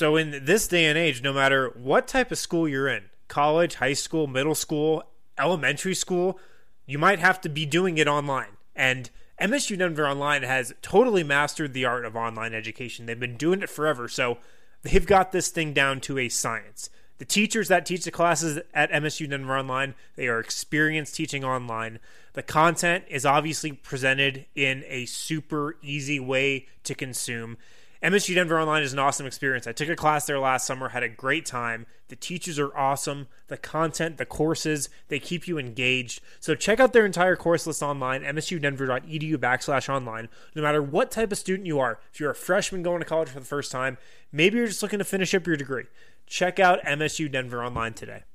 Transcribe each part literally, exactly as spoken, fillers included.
So in this day and age, no matter what type of school you're in, college, high school, middle school, elementary school, you might have to be doing it online. And M S U Denver Online has totally mastered the art of online education. They've been doing it forever, so they've got this thing down to a science. The teachers that teach the classes at M S U Denver Online, they are experienced teaching online. The content is obviously presented in a super easy way to consume. M S U Denver Online is an awesome experience. I took a class there last summer, had a great time. The teachers are awesome. The content, the courses, they keep you engaged. So check out their entire course list online, msudenver.edu backslash online. No matter what type of student you are, if you're a freshman going to college for the first time, maybe you're just looking to finish up your degree, check out M S U Denver Online today.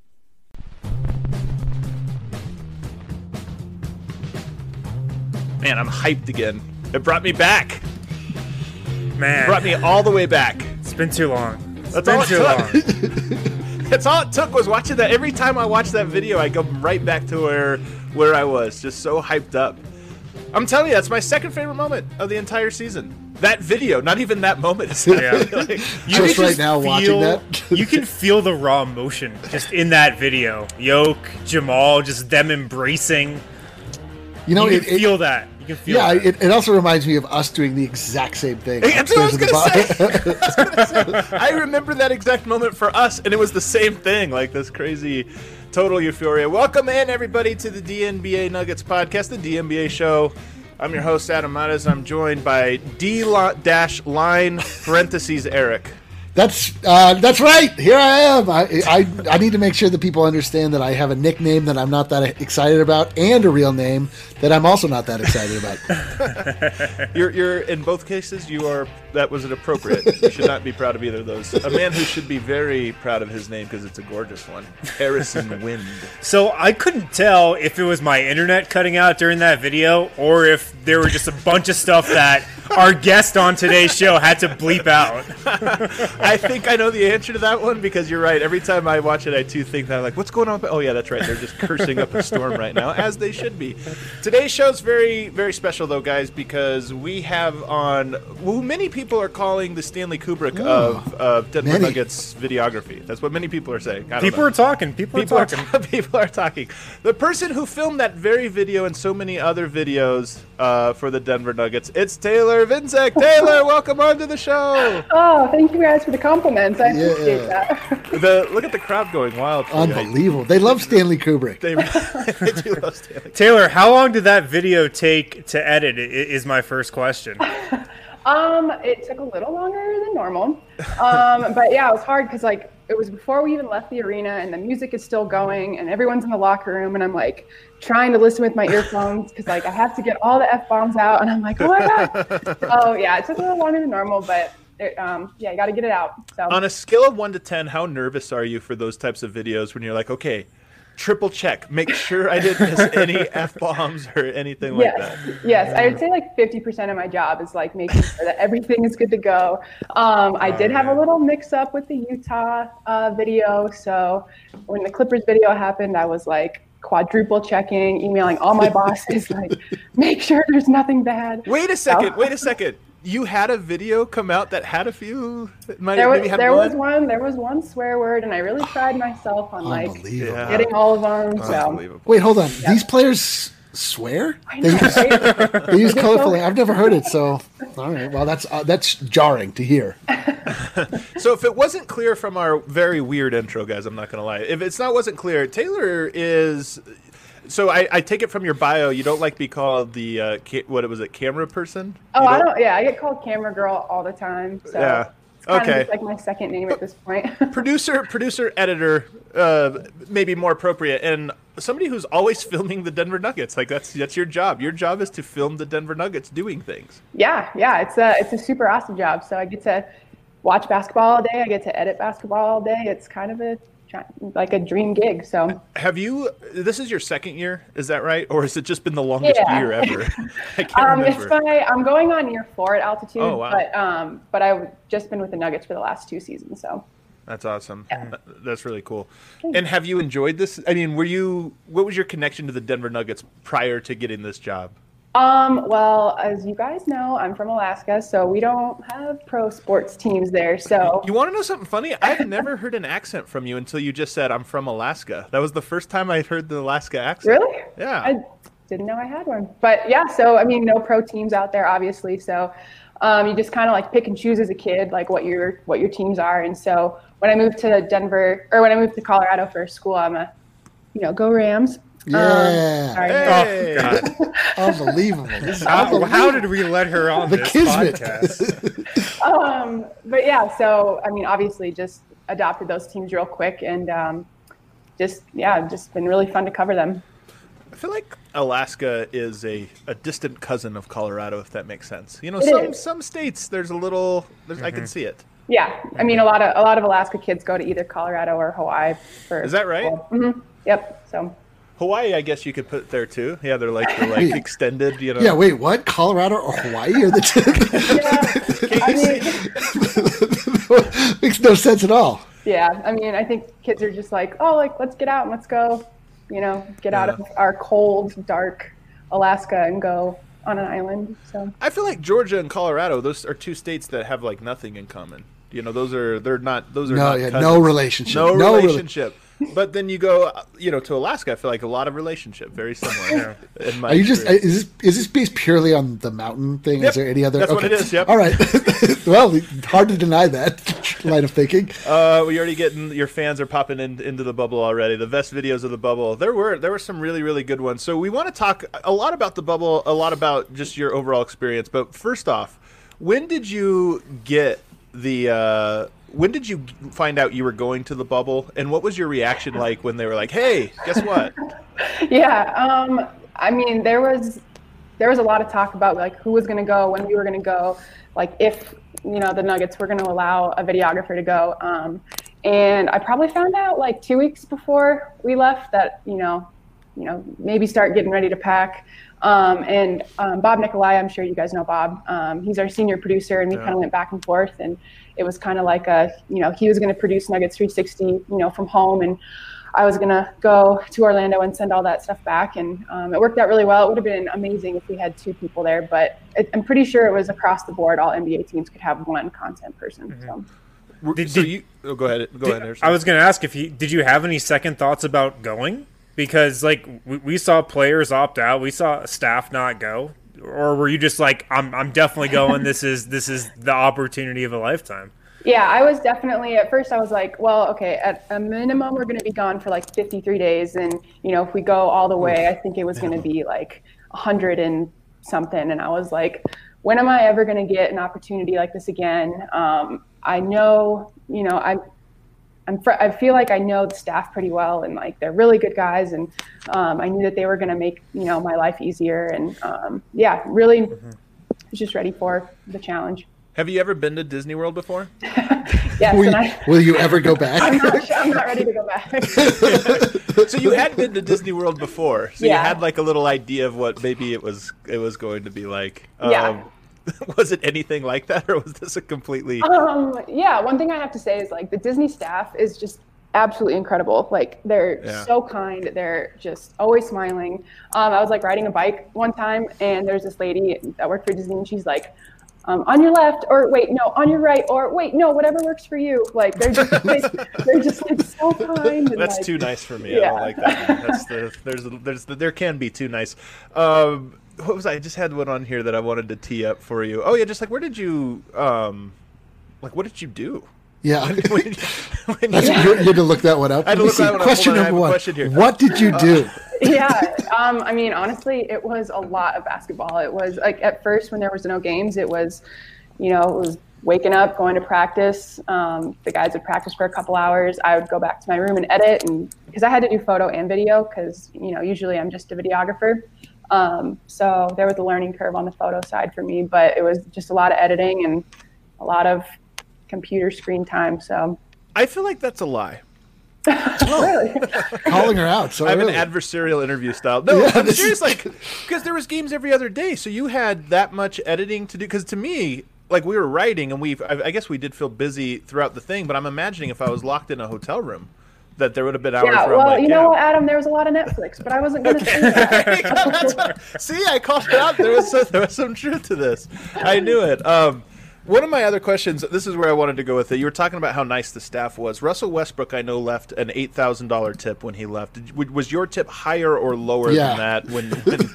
Man, I'm hyped again. It brought me back. Man. It brought me all the way back. It's been too long. It's That's been all it too took. long. That's all it took was watching that. Every time I watch that video, I go right back to where where I was, just so hyped up. I'm telling you, that's my second favorite moment of the entire season. That video, not even that moment. Yeah. Like, you just right now feel, watching that. You can feel the raw emotion just in that video. Yoke, Jamal, just them embracing. You know, you it, can it, feel that. You can feel yeah, that. it, it also reminds me of us doing the exact same thing. That's what I was upstairs going in to the say. I was gonna say. I remember that exact moment for us, and it was the same thing, like this crazy total euphoria. Welcome in, everybody, to the D N B A Nuggets podcast, the D N B A show. I'm your host, Adam Matas. I'm joined by D-line parentheses Eric. That's uh, that's right. Here I am. I, I I need to make sure that people understand that I have a nickname that I'm not that excited about, and a real name that I'm also not that excited about. you're you're in both cases. You are. That was inappropriate. You should not be proud of either of those. A man who should be very proud of his name because it's a gorgeous one. Harrison Wind. So I couldn't tell if it was my internet cutting out during that video or if there were just a bunch of stuff that our guest on today's show had to bleep out. I think I know the answer to that one because you're right. Every time I watch it, I too think that I'm like, what's going on? Oh, yeah, that's right. They're just cursing up a storm right now, as they should be. Today's show's very, very special, though, guys, because we have on who many people are calling the Stanley Kubrick oh, of, of Denver many. Nuggets videography. That's what many people are saying. I don't People know. are talking. People, People are are, talking. ta- people are talking. The person who filmed that very video and so many other videos uh, for the Denver Nuggets, it's Taylor Vincek. Taylor, welcome onto the show. Oh, thank you guys for the compliments. I Yeah. appreciate that. The look at the crowd going wild. for you. Unbelievable. They love Stanley Kubrick. They, they do love Stanley. Taylor, how long did that video take to edit? i- Is my first question. Um, it took a little longer than normal. Um, but yeah, it was hard because like it was before we even left the arena and the music is still going and everyone's in the locker room and I'm like trying to listen with my earphones because like I have to get all the F-bombs out and I'm like, oh my God. So yeah, it took a little longer than normal, but it, um, yeah, you got to get it out. So On a scale of one to ten, how nervous are you for those types of videos when you're like, okay, triple check, make sure I didn't miss any F-bombs or anything like yes, that? yes, I would say like fifty percent of my job is like making sure that everything is good to go. Um, I did have a little mix up with the Utah uh, video. So when the Clippers video happened, I was like quadruple checking, emailing all my bosses, like make sure there's nothing bad. Wait a second, So- wait a second. You had a video come out that had a few, that might There maybe was had there one? was one there was one swear word, and I really tried myself on like Unbelievable. Yeah. getting all of them. So Unbelievable. Wait, hold on. These players swear? I They know, use, right? they use colorful. I've never heard it, so all right. Well, that's uh, that's jarring to hear. So if it wasn't clear from our very weird intro, guys, I'm not going to lie. If it's not wasn't clear, Taylor is. So I, I take it from your bio, you don't like to be called the uh, ca- what was it, camera person? Oh, You I don't. Yeah, I get called camera girl all the time. So Yeah. it's kind Okay. of just like my second name at this point. Producer, producer, editor, uh, maybe more appropriate, and somebody who's always filming the Denver Nuggets. Like that's that's your job. Your job is to film the Denver Nuggets doing things. yeah, yeah, it's a it's a super awesome job. So I get to watch basketball all day. I get to edit basketball all day. It's kind of a like a dream gig. So Have you? This is your second year, is that right, or has it just been the longest Yeah. year ever? I can't um, it's remember. my I'm going on year four at altitude. Oh, wow. But um, but I've just been with the Nuggets for the last two seasons. So That's awesome. Th- That's really cool. And have you enjoyed this? I mean, were you? What was your connection to the Denver Nuggets prior to getting this job? Um, well, as you guys know, I'm from Alaska, so we don't have pro sports teams there. So You want to know something funny? I've never heard an accent from you until you just said I'm from Alaska. That was the first time I heard the Alaska accent. really, Yeah. I didn't know I had one. But yeah, so I mean, no pro teams out there, obviously. So um, you just kind of like pick and choose as a kid, like what your what your teams are. And so when I moved to Denver, or when I moved to Colorado for school, I'm a, you know, go Rams. Yeah. Um, sorry. Hey. Oh, God. Unbelievable. This is How, unbelievable. how did we let her on The this Kismet. podcast? Um, but yeah, so I mean, obviously, just adopted those teams real quick, and um, just yeah, just been really fun to cover them. I feel like Alaska is a, a distant cousin of Colorado, if that makes sense. You know, It some is. some states there's a little there's, I can see it. Yeah, I mean, a lot of a lot of Alaska kids go to either Colorado or Hawaii for. Is that right? Mm-hmm. Yep. So. Hawaii, I guess you could put there too. Yeah, they're like they're like extended, you know. Yeah, wait, what? Colorado or Hawaii are the two? Yeah, I mean, Makes no sense at all. yeah, I mean, I think kids are just like, oh, like let's get out and let's go, you know, get out Yeah. of our cold, dark Alaska and go on an island. So. I feel like Georgia and Colorado, those are two states that have like nothing in common. You know, those are they're not those are No, not yeah, cousins. no relationship. No, No rela- relationship. But then you go, uh, you know, to Alaska. I feel like a lot of relationship, very similar. In my Are you just experience. is this is this based purely on the mountain thing? Yep, Is there any other? that's what it is, yep. All right. Well, hard to deny that line of thinking. Uh, we already getting your fans are popping in, into the bubble already. The best videos of the bubble. There were there were some really really good ones. So we want to talk a lot about the bubble, a lot about just your overall experience. But first off, when did you get the? Uh, when did you find out you were going to the bubble, and what was your reaction like when they were like, "Hey, guess what?" Yeah, um, I mean, there was there was a lot of talk about like who was going to go, when we were going to go, like if you know the Nuggets were going to allow a videographer to go. Um, and I probably found out like two weeks before we left that you know, you know, maybe start getting ready to pack. Um, and um, Bob Nikolai, I'm sure you guys know Bob. Um, he's our senior producer, and we Yeah. kind of went back and forth, and it was kind of like a, you know, he was going to produce Nuggets three sixty, you know, from home, and I was going to go to Orlando and send all that stuff back. And um, it worked out really well. It would have been amazing if we had two people there, but it, I'm pretty sure it was across the board. All N B A teams could have one content person. So. Did- so did- you oh, go ahead. Go ahead. Harrison. I was going to ask if you did you have any second thoughts about going? Because like we, we saw players opt out, we saw staff not go, or were you just like, I'm I'm definitely going. This is this is the opportunity of a lifetime. Yeah, I was definitely, at first I was like, well, okay, at a minimum, we're going to be gone for like fifty-three days. And, you know, if we go all the way, I think it was going to be like a hundred and something. And I was like, when am I ever going to get an opportunity like this again? Um, I know, you know, I, I'm, fr- I feel like I know the staff pretty well, and like, they're really good guys. And um, I knew that they were going to make, you know, my life easier. And um, yeah, really Mm-hmm. was just ready for the challenge. Have you ever been to Disney World before? Yes, Will and you, I, will you ever go back? I'm not, I'm not ready to go back. So you had been to Disney World before, so Yeah. you had like a little idea of what maybe it was it was going to be like. Yeah. Um, was it anything like that, or was this a completely? Um, yeah, one thing I have to say is like the Disney staff is just absolutely incredible. Like they're Yeah. so kind. They're just always smiling. Um, I was like riding a bike one time, and there's this lady that worked for Disney, and she's like, um, on your left, or wait, no, on your right, or wait, no, whatever works for you. Like they're just like, they're just like so kind. And, That's like, too nice for me. I Yeah. don't like that. That's the there's there's there can be too nice. Um, what was I? I just had one on here that I wanted to tee up for you. Oh yeah, just like where did you um, like what did you do? Yeah. When you- when That's, you- you, you had to look that one up. I had to Let me look see. that one up. Question Hold on, I have number a one. question here. What did you do? yeah um I mean, honestly, it was a lot of basketball. It was like at first when there was no games, it was, you know, it was waking up, going to practice. Um, the guys would practice for a couple hours. I would go back to my room and edit, and because I had to do photo and video, because you know usually I'm just a videographer. Um, so there was a learning curve on the photo side for me, but it was just a lot of editing and a lot of computer screen time. So I feel like that's a lie. really, Calling her out. So I have early. an adversarial interview style. No, Yeah, I'm this serious. is- Like, because there was games every other day, so you had that much editing to do. Because to me, like we were writing, and we, I, I guess we did feel busy throughout the thing. But I'm imagining if I was locked in a hotel room, that there would have been hours Yeah, where well, I'm like, you yeah. know what, Adam? There was a lot of Netflix, but I wasn't going to say that. That's what- see, I called it out. There was some, there was some truth to this. I knew it. Um, one of my other questions. This is where I wanted to go with it. You were talking about how nice the staff was. Russell Westbrook, I know, left an eight thousand dollar tip when he left. Did, was your tip higher or lower Yeah. than that? When, when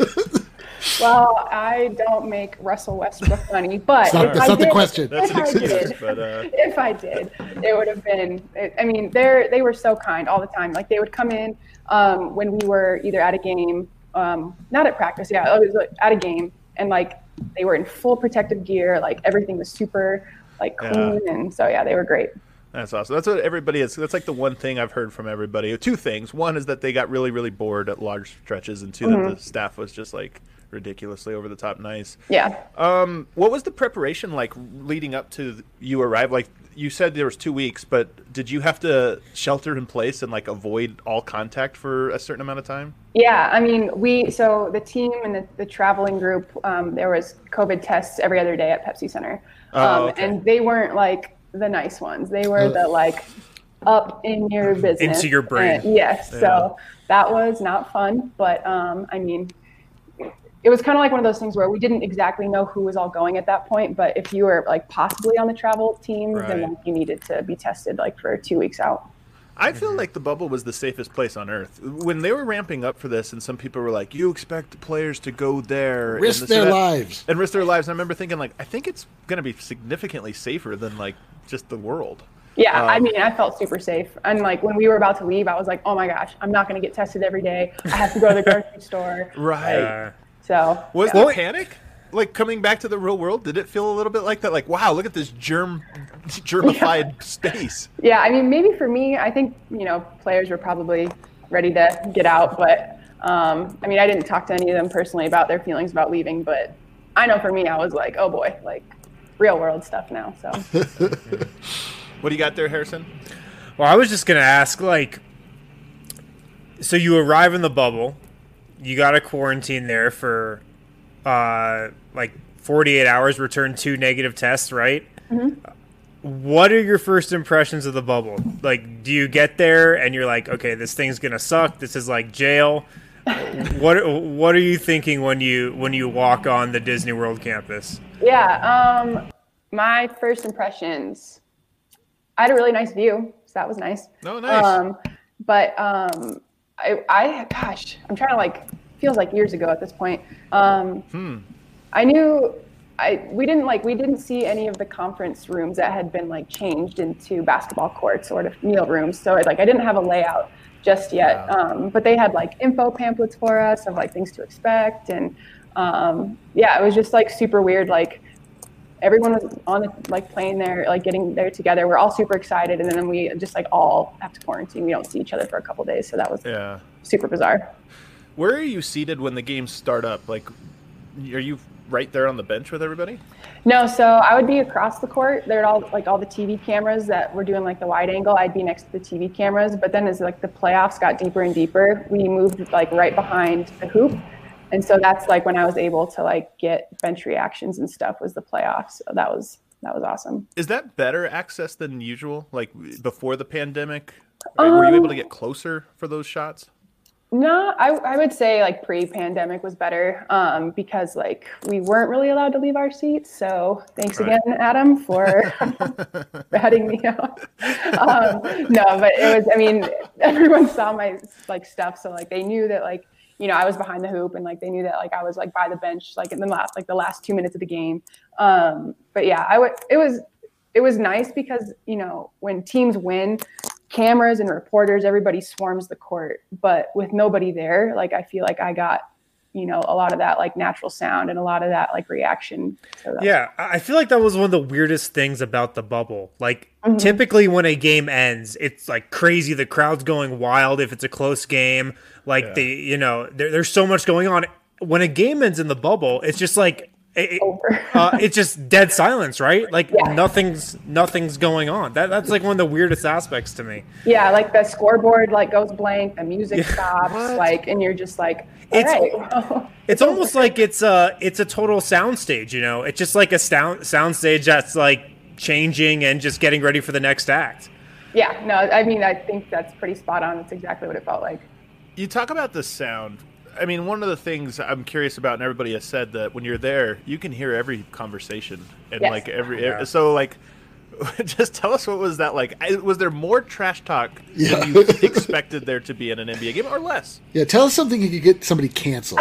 Well, I don't make Russell Westbrook money, but It's not- if that's I not the did, question. That's if an I excuse, did, but, uh, if I did, it would have been. I mean, they're they were so kind all the time. Like they would come in um, when we were either at a game, um, not at practice, yeah, it was like, at a game, and like they were in full protective gear. Like everything was super like clean, Yeah. and so yeah, they were great. That's awesome. That's what everybody is. That's like the one thing I've heard from everybody. Two things. One is that they got really, really bored at large stretches, and 2 Mm-hmm. that the staff was just like ridiculously over the top nice. Yeah. Um, what was the preparation like leading up to you arrive? Like you said, there was two weeks, but did you have to shelter in place and like avoid all contact for a certain amount of time? Yeah, I mean, we so the team and the, the traveling group, um, there was COVID tests every other day at Pepsi Center, um, Oh, okay. and they weren't like the nice ones. They were the like up in your business, Into your brain. And, yes, so that was not fun. But um, I mean, it was kind of like one of those things where we didn't exactly know who was all going at that point. But if you were like possibly on the travel team, then Right. like, you needed to be tested like for two weeks out. I feel like the bubble was the safest place on earth. When they were ramping up for this, and some people were like, you expect players to go there. Risk and this their and that," lives. And risk their lives. And I remember thinking, like, I think it's going to be significantly safer than, like, just the world. Yeah, I Um, mean, I felt super safe. And like when we were about to leave, I was like, oh my gosh, I'm not going to get tested every day. I have to go to the grocery store. Right. Uh, So, Was yeah. there panic? Like, coming back to the real world, did it feel a little bit like that? Like, wow, look at this germ, germified space. yeah, I mean, maybe for me, I think, you know, players were probably ready to get out. But um, I mean, I didn't talk to any of them personally about their feelings about leaving. But I know for me, I was like, oh boy, like real world stuff now. So, What do you got there, Harrison? Well, I was just gonna ask, like, so you arrive in the bubble, you got to quarantine there for, uh, like forty-eight hours, return two negative tests, right? Mm-hmm. What are your first impressions of the bubble? Like, do you get there and you're like, okay, this thing's gonna suck. This is like jail. what What are you thinking when you when you walk on the Disney World campus? yeah, um, my first impressions, I had a really nice view. So that was nice. Oh, nice. Um, but um, I, I, gosh, I'm trying to like, feels like years ago at this point. Um, Hmm. I knew I we didn't like we didn't see any of the conference rooms that had been like changed into basketball courts or meal rooms. So like I didn't have a layout just yet. Wow. Um, but they had like info pamphlets for us of like things to expect, and um, yeah, it was just like super weird. Like everyone was on the, like playing there, like getting there together. We're all super excited, and then we just like all have to quarantine. We don't see each other for a couple days, so that was Yeah. super bizarre. Where are you seated when the games start up? Like, are you right there on the bench with everybody? No, so I would be across the court. There'd all like all the T V cameras that were doing like the wide angle. I'd be next to the T V cameras. But then as like the playoffs got deeper and deeper, we moved like right behind the hoop. And so that's like when I was able to like get bench reactions and stuff was the playoffs. So that was that was awesome. Is that better access than usual? Like before the pandemic, were you able to get closer for those shots? No, I, I would say like pre-pandemic was better um, because like we weren't really allowed to leave our seats. So thanks Right. again, Adam, for ratting me out. Um, no, but it was, I mean, everyone saw my like stuff. So like they knew that like, you know, I was behind the hoop and like they knew that like I was like by the bench, like in the last, like the last two minutes of the game. Um, but yeah, I would, it was, it was nice because, you know, when teams win, cameras and reporters, everybody swarms the court, but with nobody there, like I feel like I got, you know, a lot of that like natural sound and a lot of that like reaction. So that- Yeah, I feel like that was one of the weirdest things about the bubble. Like, Mhm. typically when a game ends, it's like crazy. The crowd's going wild if it's a close game. Like, Yeah. the you know, there, there's so much going on. When a game ends in the bubble, it's just like it, Over. uh, it's just dead silence, right? Like Yeah. nothing's nothing's going on. That that's like one of the weirdest aspects to me. Yeah, like the scoreboard like goes blank, the music Yeah. stops, What? like, and you're just like, all It's- right. It's almost like it's a it's a total soundstage, you know. It's just like a sound soundstage that's like changing and just getting ready for the next act. Yeah, no, I mean, I think that's pretty spot on. That's exactly what it felt like. You talk about the sound. I mean, one of the things I'm curious about, and everybody has said that when you're there, you can hear every conversation and Yes. like every. Yeah. So like, just tell us what was that like? I- Was there more trash talk Yeah. than you expected there to be in an N B A game, or less? Yeah, tell us something you could get somebody canceled.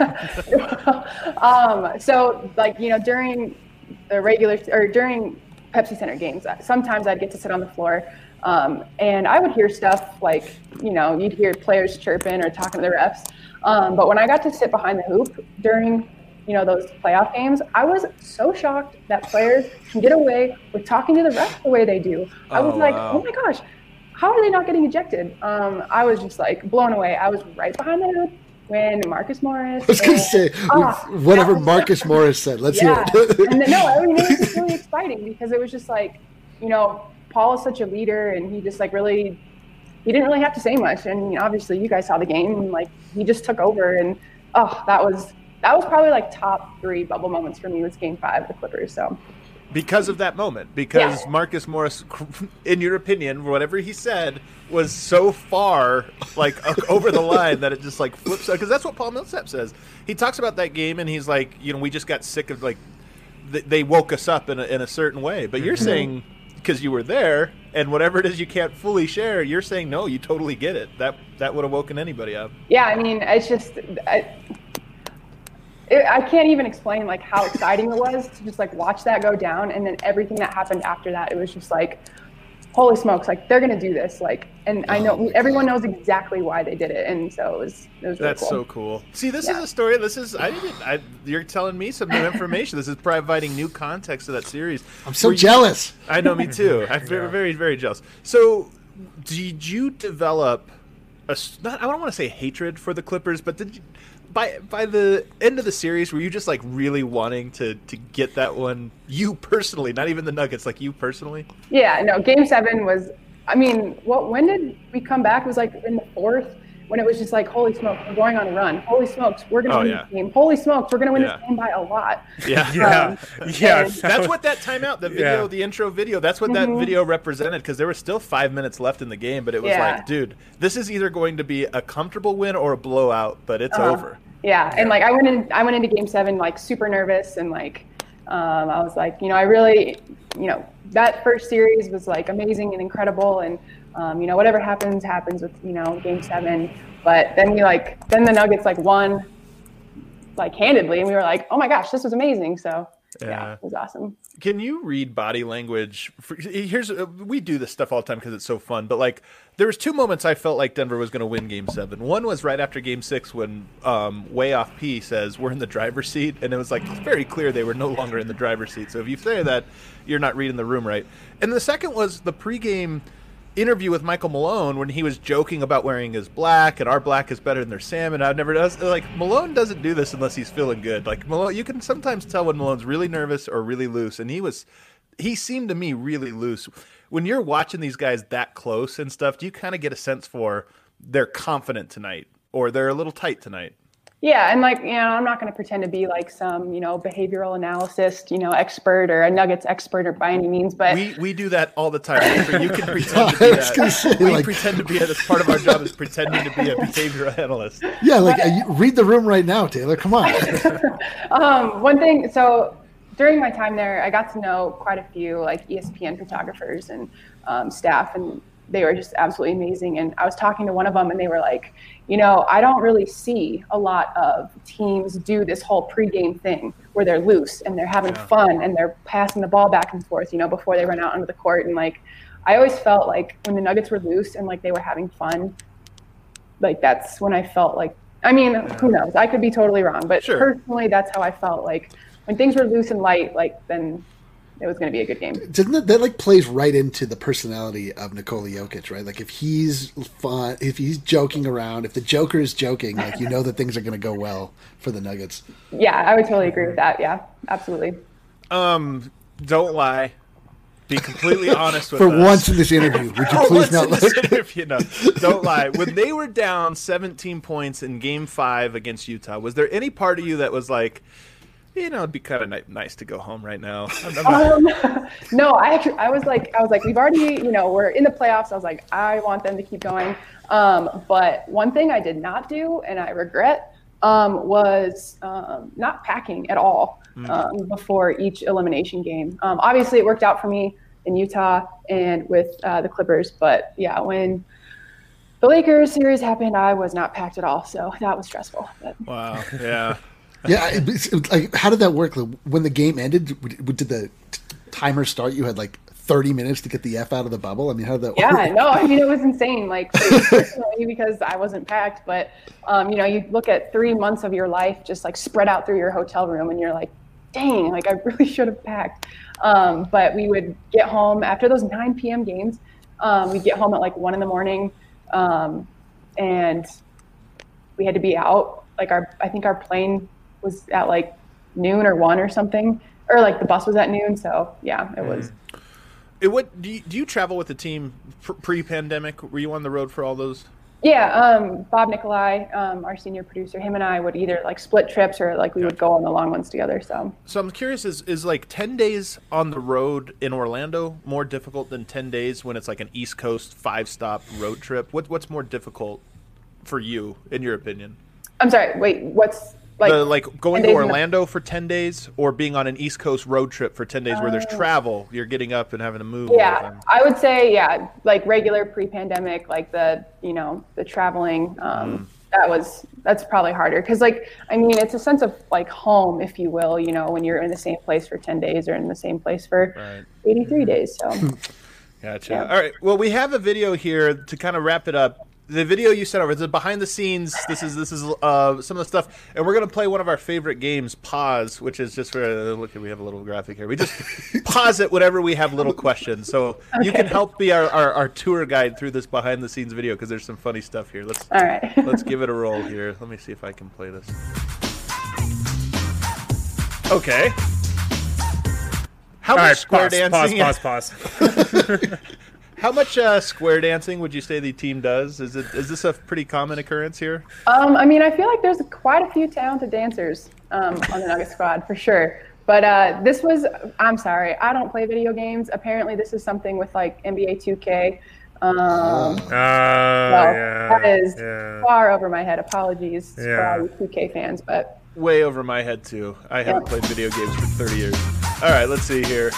Um, so like, you know, during the regular or during Pepsi Center games, sometimes I'd get to sit on the floor. Um, and I would hear stuff like, you know, you'd hear players chirping or talking to the refs. Um, but when I got to sit behind the hoop during, you know, those playoff games, I was so shocked that players can get away with talking to the refs the way they do. I was Oh, like, wow. oh my gosh, how are they not getting ejected? Um, I was just like blown away. I was right behind the hoop when Marcus Morris. I was going to and- say, Ah, whatever that was- Marcus Morris said. Let's yeah. hear it. and then, no, I mean, it was just really exciting because it was just like, you know, Paul is such a leader and he just like really, he didn't really have to say much. And you know, obviously you guys saw the game and like he just took over and oh, that was, that was probably like top three bubble moments for me was game five of the Clippers. So Because of that moment, because Yeah. Marcus Morris, in your opinion, whatever he said was so far like over the line that it just like flips. Because that's what Paul Millsap says. He talks about that game and he's like, you know, we just got sick of like th- they woke us up in a, in a certain way. But you're saying because you were there and whatever it is you can't fully share, you're saying no, you totally get it. That that would have woken anybody up. yeah, I mean, it's just, I, it, I can't even explain like how exciting it was to just like watch that go down. And then everything that happened after that, it was just like, holy smokes, like they're going to do this. Like, and I know Oh my everyone God. knows exactly why they did it. And so it was, it was really That's cool. so cool. See, this Yeah. is a story. This is I didn't. I, you're telling me some new information. This is providing new context to that series. I'm so Were you- jealous. I know, me too. I'm very, very, very jealous. So, did you develop a s- not? I don't want to say hatred for the Clippers, but did you, by by the end of the series, were you just like really wanting to to get that one? You personally, not even the Nuggets, like you personally. Yeah, no, game seven was, I mean, what, when did we come back? It was like in the fourth when it was just like, holy smokes, we're going on a run. Holy smokes, we're going to Oh, win yeah. this game. Holy smokes, we're going to win Yeah. this game by a lot. Yeah. Yeah, Um, yeah. and- That's what that timeout, the video, Yeah. the intro video, that's what that Mhm. video represented because there was still five minutes left in the game, but it was Yeah. like, dude, this is either going to be a comfortable win or a blowout, but it's Uh-huh. over. Yeah, and like I went in, I went into game seven like super nervous and like um, I was like, you know, I really, you know, that first series was like amazing and incredible, and um, you know, whatever happens, happens with you know game seven. But then we like, then the Nuggets like won, like handedly, and we were like, oh my gosh, this was amazing. So yeah, Yeah. it was awesome. Can you read body language? For, here's uh, we do this stuff all the time because it's so fun. But like, there was two moments I felt like Denver was going to win Game Seven. One was right after Game Six when um, Way Off P says we're in the driver's seat, and it was like very clear they were no longer in the driver's seat. So if you say that, you're not reading the room right. And the second was the pregame interview with Michael Malone when he was joking about wearing his black and our black is better than their salmon. I've never does like Malone doesn't do this unless he's feeling good. Like Malone, you can sometimes tell when Malone's really nervous or really loose, and he was he seemed to me really loose. When you're watching these guys that close and stuff, do you kind of get a sense for they're confident tonight or they're a little tight tonight? Yeah, and like, you know, I'm not going to pretend to be like some, you know, behavioral analyst, you know, expert or a Nuggets expert or by any means, but We we do that all the time. You can pretend to I be was gonna that. say, we like- pretend to be that's part of our job is pretending to be a behavioral analyst. Yeah, like uh, you- read the room right now, Taylor. Come on. Um, one thing, so during my time there, I got to know quite a few like E S P N photographers and um, staff, and they were just absolutely amazing. And I was talking to one of them, and they were like, you know, I don't really see a lot of teams do this whole pregame thing where they're loose and they're having Yeah. fun and they're passing the ball back and forth, you know, before they run out onto the court. And like, I always felt like when the Nuggets were loose and like they were having fun, like that's when I felt like, I mean, who knows? I could be totally wrong, but Sure. personally, that's how I felt. Like when things were loose and light, like then it was going to be a good game. Doesn't that, that like plays right into the personality of Nikola Jokic, right? Like if he's fun, if he's joking around, if the Joker is joking, like you know that things are going to go well for the Nuggets. Yeah, I would totally agree with that. Yeah, absolutely. Um, don't lie. Be completely honest with For us. once in this interview, would you For please once not in let this interview, no, don't lie. When they were down seventeen points in Game Five against Utah, was there any part of you that was like, you know, it'd be kind of ni- nice to go home right now. I'm, I'm not... Um, no, I actually, I was like, I was like, we've already, you know, we're in the playoffs. I was like, I want them to keep going. Um, but one thing I did not do, and I regret, um, was um, not packing at all um, before each elimination game. Um, obviously, it worked out for me in Utah and with uh, the Clippers. But yeah, when the Lakers series happened, I was not packed at all. So that was stressful. But. Wow. Yeah. Yeah, it, it's, like how did that work? When the game ended, did the t- timer start? You had like thirty minutes to get the F out of the bubble. I mean, how did that yeah, work? Yeah, no, I mean it was insane. Like personally, because I wasn't packed, but um, you know, you look at three months of your life just like spread out through your hotel room, and you're like, dang, like I really should have packed. Um, but we would get home after those nine p.m. games. Um, we'd get home at like one in the morning, um, and we had to be out. Like our, I think our plane was at like noon or one or something, or like the bus was at noon. So yeah, it was. It what do you, do you travel with the team pre-pandemic? Were you on the road for all those? Yeah, um, Bob Nikolai, um, our senior producer, him and I would either like split trips or like we would go on the long ones together. So, so I'm curious: is is like ten days on the road in Orlando more difficult than ten days when it's like an East Coast five stop road trip? What what's more difficult for you, in your opinion? I'm sorry. Wait, what's like the, like going to Orlando for ten days or being on an East Coast road trip for ten days uh, where there's travel, you're getting up and having to move? Yeah, I would say yeah, like regular pre-pandemic, like the you know the traveling. Um, mm. That was that's probably harder because like I mean it's a sense of like home, if you will. You know when you're in the same place for ten days or in the same place for right. eighty-three days. So. Gotcha. Yeah. All right. Well, we have a video here to kind of wrap it up. The video you sent over, it's behind the scenes. This is this is uh, some of the stuff, and we're gonna play one of our favorite games, Pause, which is just for look. We have a little graphic here. We just pause it whenever we have little questions, so okay. You can help be our, our, our tour guide through this behind the scenes video because there's some funny stuff here. Let's all right. Let's give it a roll here. Let me see if I can play this. Okay. How all much right, square pause, dancing? Pause. Pause. Pause. How much uh, square dancing would you say the team does? Is it is this a pretty common occurrence here? Um, I mean, I feel like there's quite a few talented dancers um, on the Nugget squad for sure. But uh, this was, I'm sorry, I don't play video games. Apparently, this is something with like N B A two K. Um, uh, well, yeah, that is yeah. far over my head. Apologies yeah. for all you two K fans, but way over my head too. I haven't yeah. played video games for thirty years. All right, let's see here.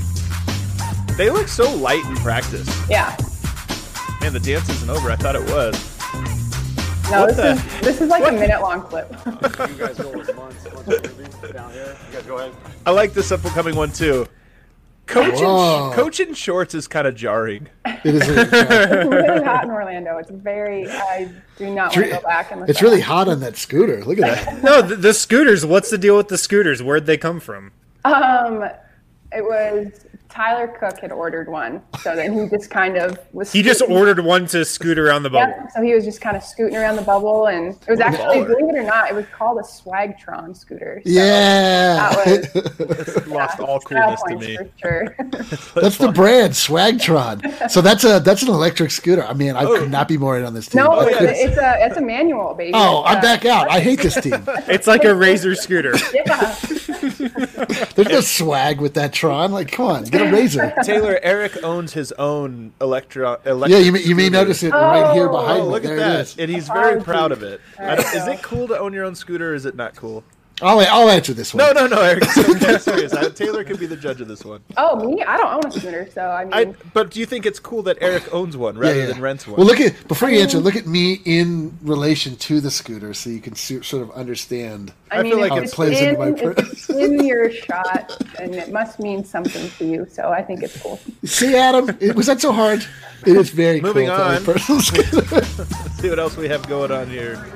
They look so light in practice. Yeah. Man, the dance isn't over. I thought it was. No, what this the? is this is like what? a minute long clip. You guys go with months, months of movies down here. You guys go ahead. I like this upcoming one too. Coach in, coach in shorts is kind of jarring. It is really jarring. It's really hot in Orlando. It's very. I do not want to go back. And it's really hot on that scooter. Look at that. No, the, the scooters. What's the deal with the scooters? Where'd they come from? Um, it was. Tyler Cook had ordered one, so then he just kind of was. He just ordered one to scoot around the bubble. Yeah, so he was just kind of scooting around the bubble, and it was actually, believe it or not, it was called a Swagtron scooter. So yeah, that was lost yeah, all coolness to me. For sure. That's the brand, Swagtron. So that's a that's an electric scooter. I mean, I oh. could not be more in on this team. No, it's, it's a it's a manual, baby. Oh, it's I'm a, back out. I hate this team. It's like a Razor scooter. Yeah. There's no swag with that Tron. Like, come on, get a Razor. Taylor, Eric owns his own electro. electric yeah, you may, you may notice it oh, right here behind oh, me. Look there at it that, is. and he's very oh, proud of it. Right, is so. it cool to own your own scooter, or is it not cool? I'll, I'll answer this one. No, no, no, Eric. I'm serious. I, Taylor can be the judge of this one. Oh, me? I don't own a scooter, so I mean. I, but do you think it's cool that Eric owns one rather yeah, yeah. than rents one? Well, look at before you answer. Look at me in relation to the scooter, so you can see, sort of understand. I, I mean, feel like how it's it plays in, into my. Per- it's in your shot, and it must mean something to you. So I think it's cool. See, Adam, it, was that so hard? It is very Moving cool. on. Personal scooter. Let's see what else we have going on here.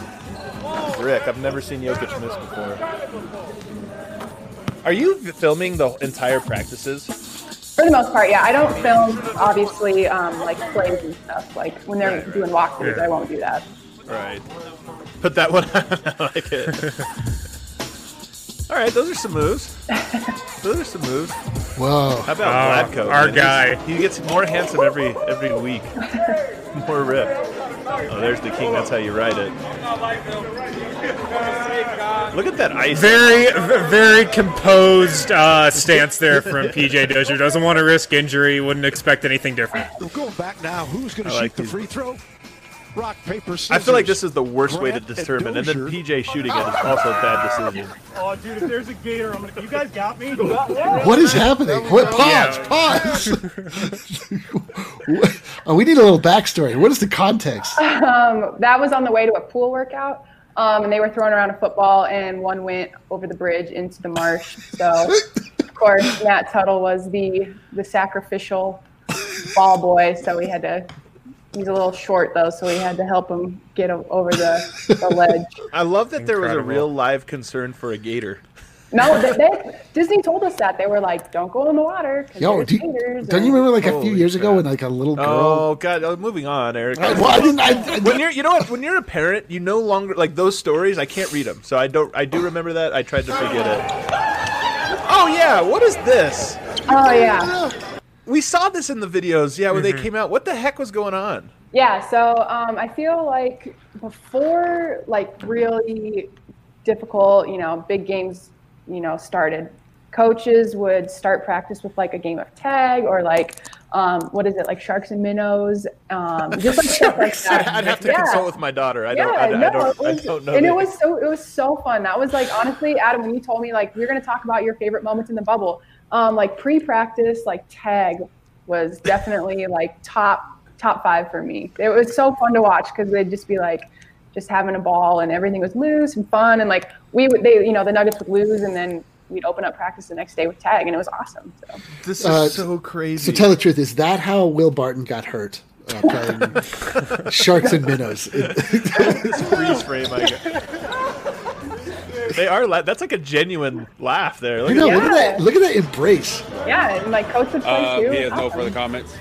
Rick, I've never seen Jokic miss before. Are you filming the entire practices? For the most part, yeah. I don't film, obviously, um, like plays and stuff. Like when they're right, doing walkthroughs, yeah. I won't do that. Right. Put that one on. I like it. All right, those are some moves. Those are some moves. Whoa. How about uh, Vlatko? Our man? guy. He's, he gets more handsome every every week. More ripped. Oh, there's the king. That's how you write it. Look at that ice. Very, v- very composed uh, stance there from P J Dozier. Doesn't want to risk injury. Wouldn't expect anything different. We're going back now. Who's going to shoot like the these. free throw? Rock, paper, scissors. I feel like this is the worst way to Grant and determine, and then Dozier. P J shooting it is also a bad decision. Oh, dude, if there's a gator, I'm gonna. You guys got me. What is happening? What, pause, Yeah. pause. Oh, we need a little backstory. What is the context? Um, that was on the way to a pool workout, um, and they were throwing around a football, and one went over the bridge into the marsh. So, of course, Matt Tuttle was the the sacrificial ball boy, so we had to. He's a little short, though, so we had to help him get o- over the, the ledge. I love that there was a Incredible. real live concern for a gator. No, they, they, Disney told us that. They were like, don't go in the water. 'Cause Yo, there's do you, gators don't and- you remember like a few Holy years ago crap. when like a little girl? Oh God! Oh, moving on, Eric. I, well, I didn't. I, I, When you're, you know what? When you're a parent, you no longer like those stories. I can't read them, so I don't. I do remember that. I tried to forget it. Oh yeah, what is this? Oh, yeah. We saw this in the videos. Yeah, when they came out. What the heck was going on? Yeah, so um, I feel like before like really difficult, you know, big games, you know, started, coaches would start practice with like a game of tag or like, um, what is it, like sharks and minnows, um, just like stuff like that. I'd have to Yeah. consult with my daughter. I don't. Yeah, I, I no, don't. it was, I don't know. and the- it was so it was so fun. That was like honestly, Adam, when you told me like we're gonna talk about your favorite moments in the bubble, um, like pre-practice, like tag was definitely like top top five for me. It was so fun to watch because they'd just be like just having a ball and everything was loose and fun and like we would they you know the Nuggets would lose and then we'd open up practice the next day with tag and it was awesm. So This is Uh, so crazy. so tell the truth. Is that how Will Barton got hurt? Uh, playing Sharks and Minnows. this freeze frame. I get. They are. La- that's like a genuine laugh there. Look I know. at Look at Yeah. that. Look at that embrace. yeah, and like coach would play Uh, too. he It has was no awesome. further comments.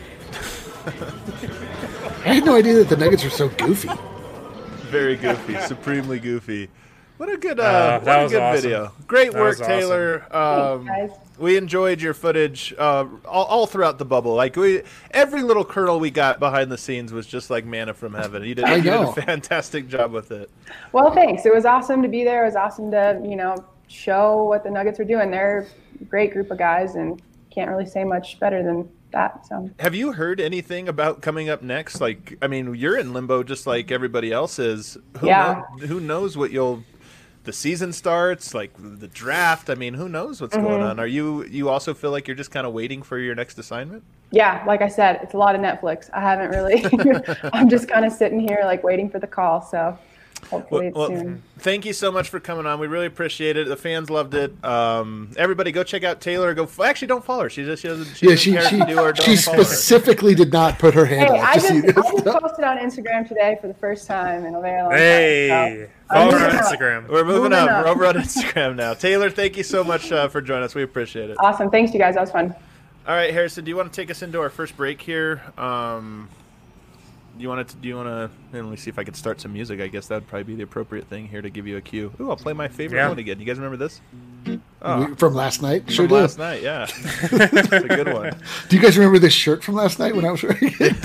I had no idea that the Nuggets were so goofy. Very goofy, supremely goofy. What a good, uh, Uh, what that a was good awesome. video. Great That work, was awesome. Taylor. Um, Thanks, guys. we enjoyed your footage uh, all, all throughout the bubble. Like we, every little kernel we got behind the scenes was just like manna from heaven. You did, I you did know. a fantastic job with it. Well, thanks. It was awesome to be there. It was awesome to, you know, show what the Nuggets are doing. They're a great group of guys and can't really say much better than that. So Have you heard anything about coming up next? Like, I mean, you're in limbo just like everybody else is. Who Yeah. know- who knows what you'll? The season starts, like the draft. I mean, who knows what's going Mm-hmm. on? Are you? You also feel like you're just kind of waiting for your next assignment? yeah, like I said, it's a lot of Netflix. I haven't really, I'm just kind of sitting here like waiting for the call. So hopefully it's Well, soon. thank you so much for coming on. We really appreciate it. The fans loved it. Um, everybody, go check out Taylor. Go actually don't follow her. She just she doesn't. She Yeah, doesn't she care if she, you do or don't she follow her. specifically did not put her hand Hey, up. I Just so just, you I just know. posted on Instagram today for the first time in a very long Hey, time. So follow I'm her on moving up. Instagram. We're moving Moving up. up. We're over on Instagram now. Taylor, thank you so much uh, for joining us. We appreciate it. Awesome. Thanks, you guys. That was fun. All right, Harrison, do you want to take us into our first break here? Um, do you want to? Do you want to? Let me see if I could start some music. I guess that would probably be the appropriate thing here to give you a cue. Ooh, I'll play my favorite Yeah. one again. You guys remember this? Oh, We- From last night, sure from do. last night. Yeah, it's a good one. Do you guys remember this shirt from last night when I was wearing it?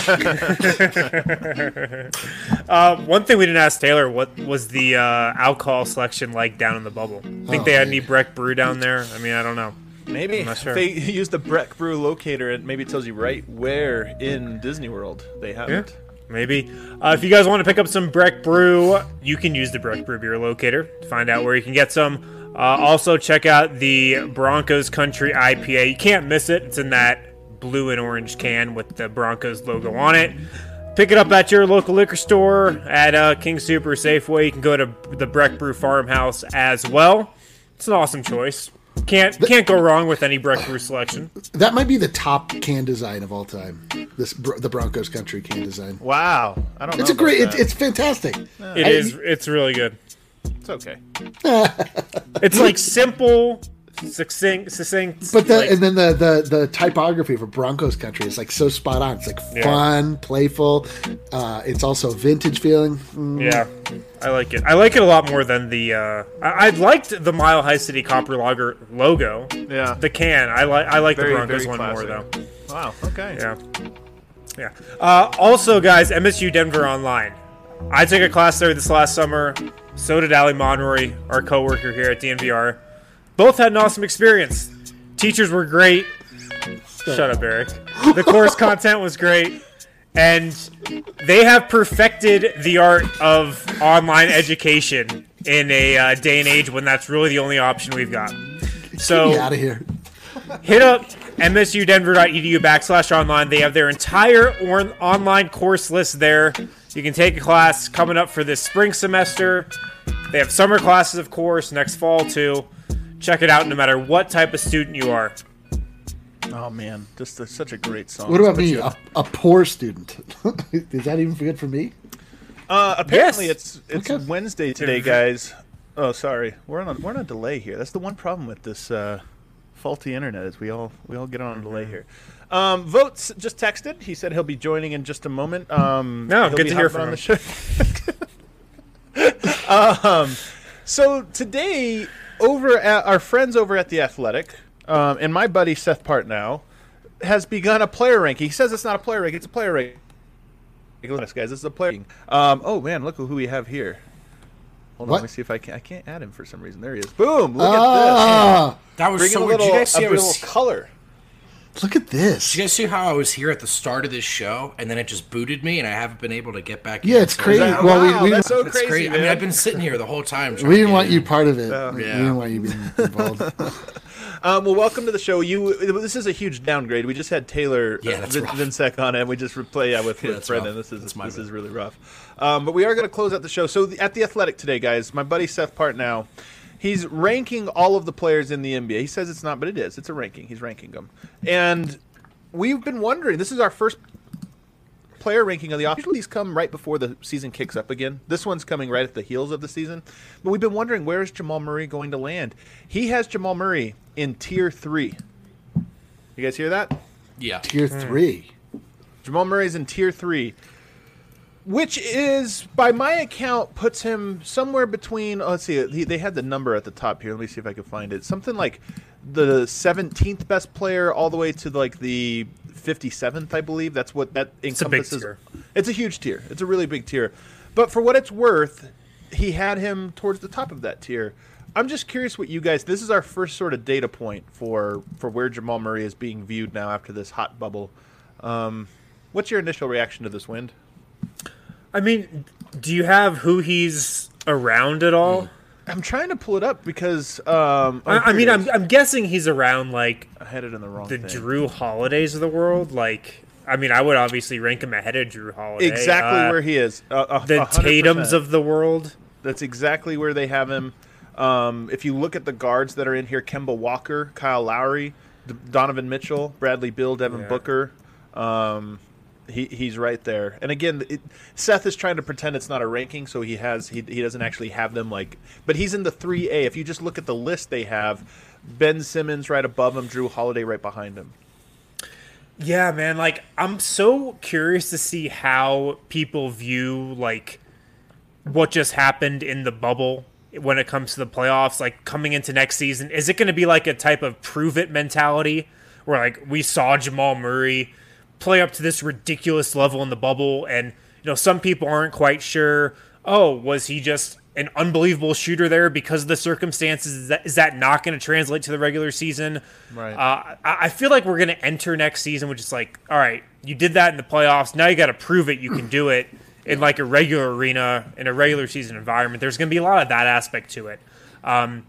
Uh, one thing we didn't ask Taylor, what was the uh, alcohol selection like down in the bubble? Think Oh, they had man. any Breck Brew down there? I mean, I don't know. Maybe I'm not sure. if they use the Breck Brew locator, it maybe tells you right where in Disney World they have Yeah. it. Maybe. Uh, if you guys want to pick up some Breck Brew, you can use the Breck Brew beer locator to find out where you can get some. Uh, also, check out the Broncos Country I P A. You can't miss it. It's in that blue and orange can with the Broncos logo on it. Pick it up at your local liquor store, at uh, King Super Safeway. You can go to the Breck Brew Farmhouse as well. It's an awesome choice. Can't can't go wrong with any Breck Brew selection. That might be the top can design of all time. This Bro- the Broncos country can design. Wow, I don't know. It's a about great. that. It's, it's fantastic. It is. It's really good. It's okay. It's like simple, succinct, succinct. But the like- and then the, the the typography for Broncos country is like so spot on. It's like Yeah. fun, playful. Uh, it's also vintage feeling. Mm. Yeah, I like it. I like it a lot more than the. Uh, I, I liked the Mile High City Copper Lager logo. Yeah. The can. I like. I like Very, the Broncos very one more classic. though. Wow. Okay. Yeah. Yeah. Uh, also, guys, M S U Denver Online. I took a class there this last summer. So did Ali Monroy, our coworker here at D N V R. Both had an awesome experience. Teachers were great. Shut up, Eric. The course content was great. And they have perfected the art of online education in a uh, day and age when that's really the only option we've got. So Get out of here. hit up msudenver.edu backslash online. They have their entire or- online course list there. You can take a class coming up for this spring semester. They have summer classes, of course, next fall too. Check it out no matter what type of student you are. Oh man, just a, such a great song. What about Put me, you- a, a poor student? Is that even good for me? Uh, apparently, Yes. it's it's Okay. Wednesday today, guys. Oh, sorry, we're on a, we're on a delay here. That's the one problem with this uh, faulty internet is we all we all get on a delay here. Um, Votes just texted. He said he'll be joining in just a moment. Um, No, he'll good be to hear hopping from on the show. um, so today, over at our friends over at the Athletic, um, and my buddy Seth Partnow has begun a player ranking. He says it's not a player ranking; it's a player ranking. Look at this, guys. This is a player. Um, oh man, look who we have here. Hold on, What? let me see if I can. I can't add him for some reason. There he is. Boom! Look Ah, That was at this. so Bring a weird. Did little, you guys see a I was? little color. look at this. Did you guys see how I was here at the start of this show, and then it just booted me, and I haven't been able to get back? Yeah, in? it's So- crazy. That- Well, we- wow, we- that's so It's crazy, crazy. I man. mean, I've been sitting here the whole time. trying We to didn't get want in. you part of it. Yeah. We Yeah. didn't want you being involved. Um, well, welcome to the show. You. This is a huge downgrade. We just had Taylor Yeah, that's Vin- rough. Vinsec on it, and we just replay yeah, with, Yeah, with that's Brendan. rough. This is That's my this bad. is really rough. Um, but we are going to close out the show. So the, at the Athletic today, guys, my buddy Seth Partnow, he's ranking all of the players in the N B A. He says it's not, but it is. It's a ranking. He's ranking them, and we've been wondering. This is our first player ranking of the off. Usually these come right before the season kicks up again. This one's coming right at the heels of the season. But we've been wondering, where is Jamal Murray going to land? He has Jamal Murray in tier three. You guys hear that? Yeah. Tier three. Jamal Murray's in tier three, which is, by my account, puts him somewhere between. Oh, let's see. He, they had the number at the top here. Let me see if I can find it. Something like the seventeenth best player, all the way to like the fifty-seventh, I believe. That's what that It's a big encompasses. tier. It's a huge tier. It's a really big tier. But for what it's worth, he had him towards the top of that tier. I'm just curious what you guys. This is our first sort of data point for for where Jamal Murray is being viewed now after this hot bubble. Um, what's your initial reaction to this, Wind? I mean, do you have who he's around at all? I'm trying to pull it up because um, oh, I, I here mean, it I'm, is. I'm guessing he's around like I had it in the wrong the thing. Drew Holidays of the world. Like, I mean, I would obviously rank him ahead of Drew Holiday. Exactly Uh, where he is. Uh, a- the one hundred percent. Tatums of the world. That's exactly where they have him. Um, if you look at the guards that are in here, Kemba Walker, Kyle Lowry, D- Donovan Mitchell, Bradley Beal, Devin Yeah. Booker. Um, he he's right there. And again, it, Seth is trying to pretend it's not a ranking, so he has he he doesn't actually have them like. But he's in the three A. If you just look at the list they have, Ben Simmons right above him, Drew Holiday right behind him. Yeah, man. Like, I'm so curious to see how people view like what just happened in the bubble when it comes to the playoffs. Like, coming into next season, is it going to be like a type of prove it mentality where like we saw Jamal Murray play up to this ridiculous level in the bubble, and you know some people aren't quite sure. Oh, was he just an unbelievable shooter there because of the circumstances? Is that, is that not going to translate to the regular season? Right. Uh, I, I feel like we're going to enter next season with just like, all right, you did that in the playoffs. Now you got to prove it. You can do it in like a regular arena, in a regular season environment. There's going to be a lot of that aspect to it. Um,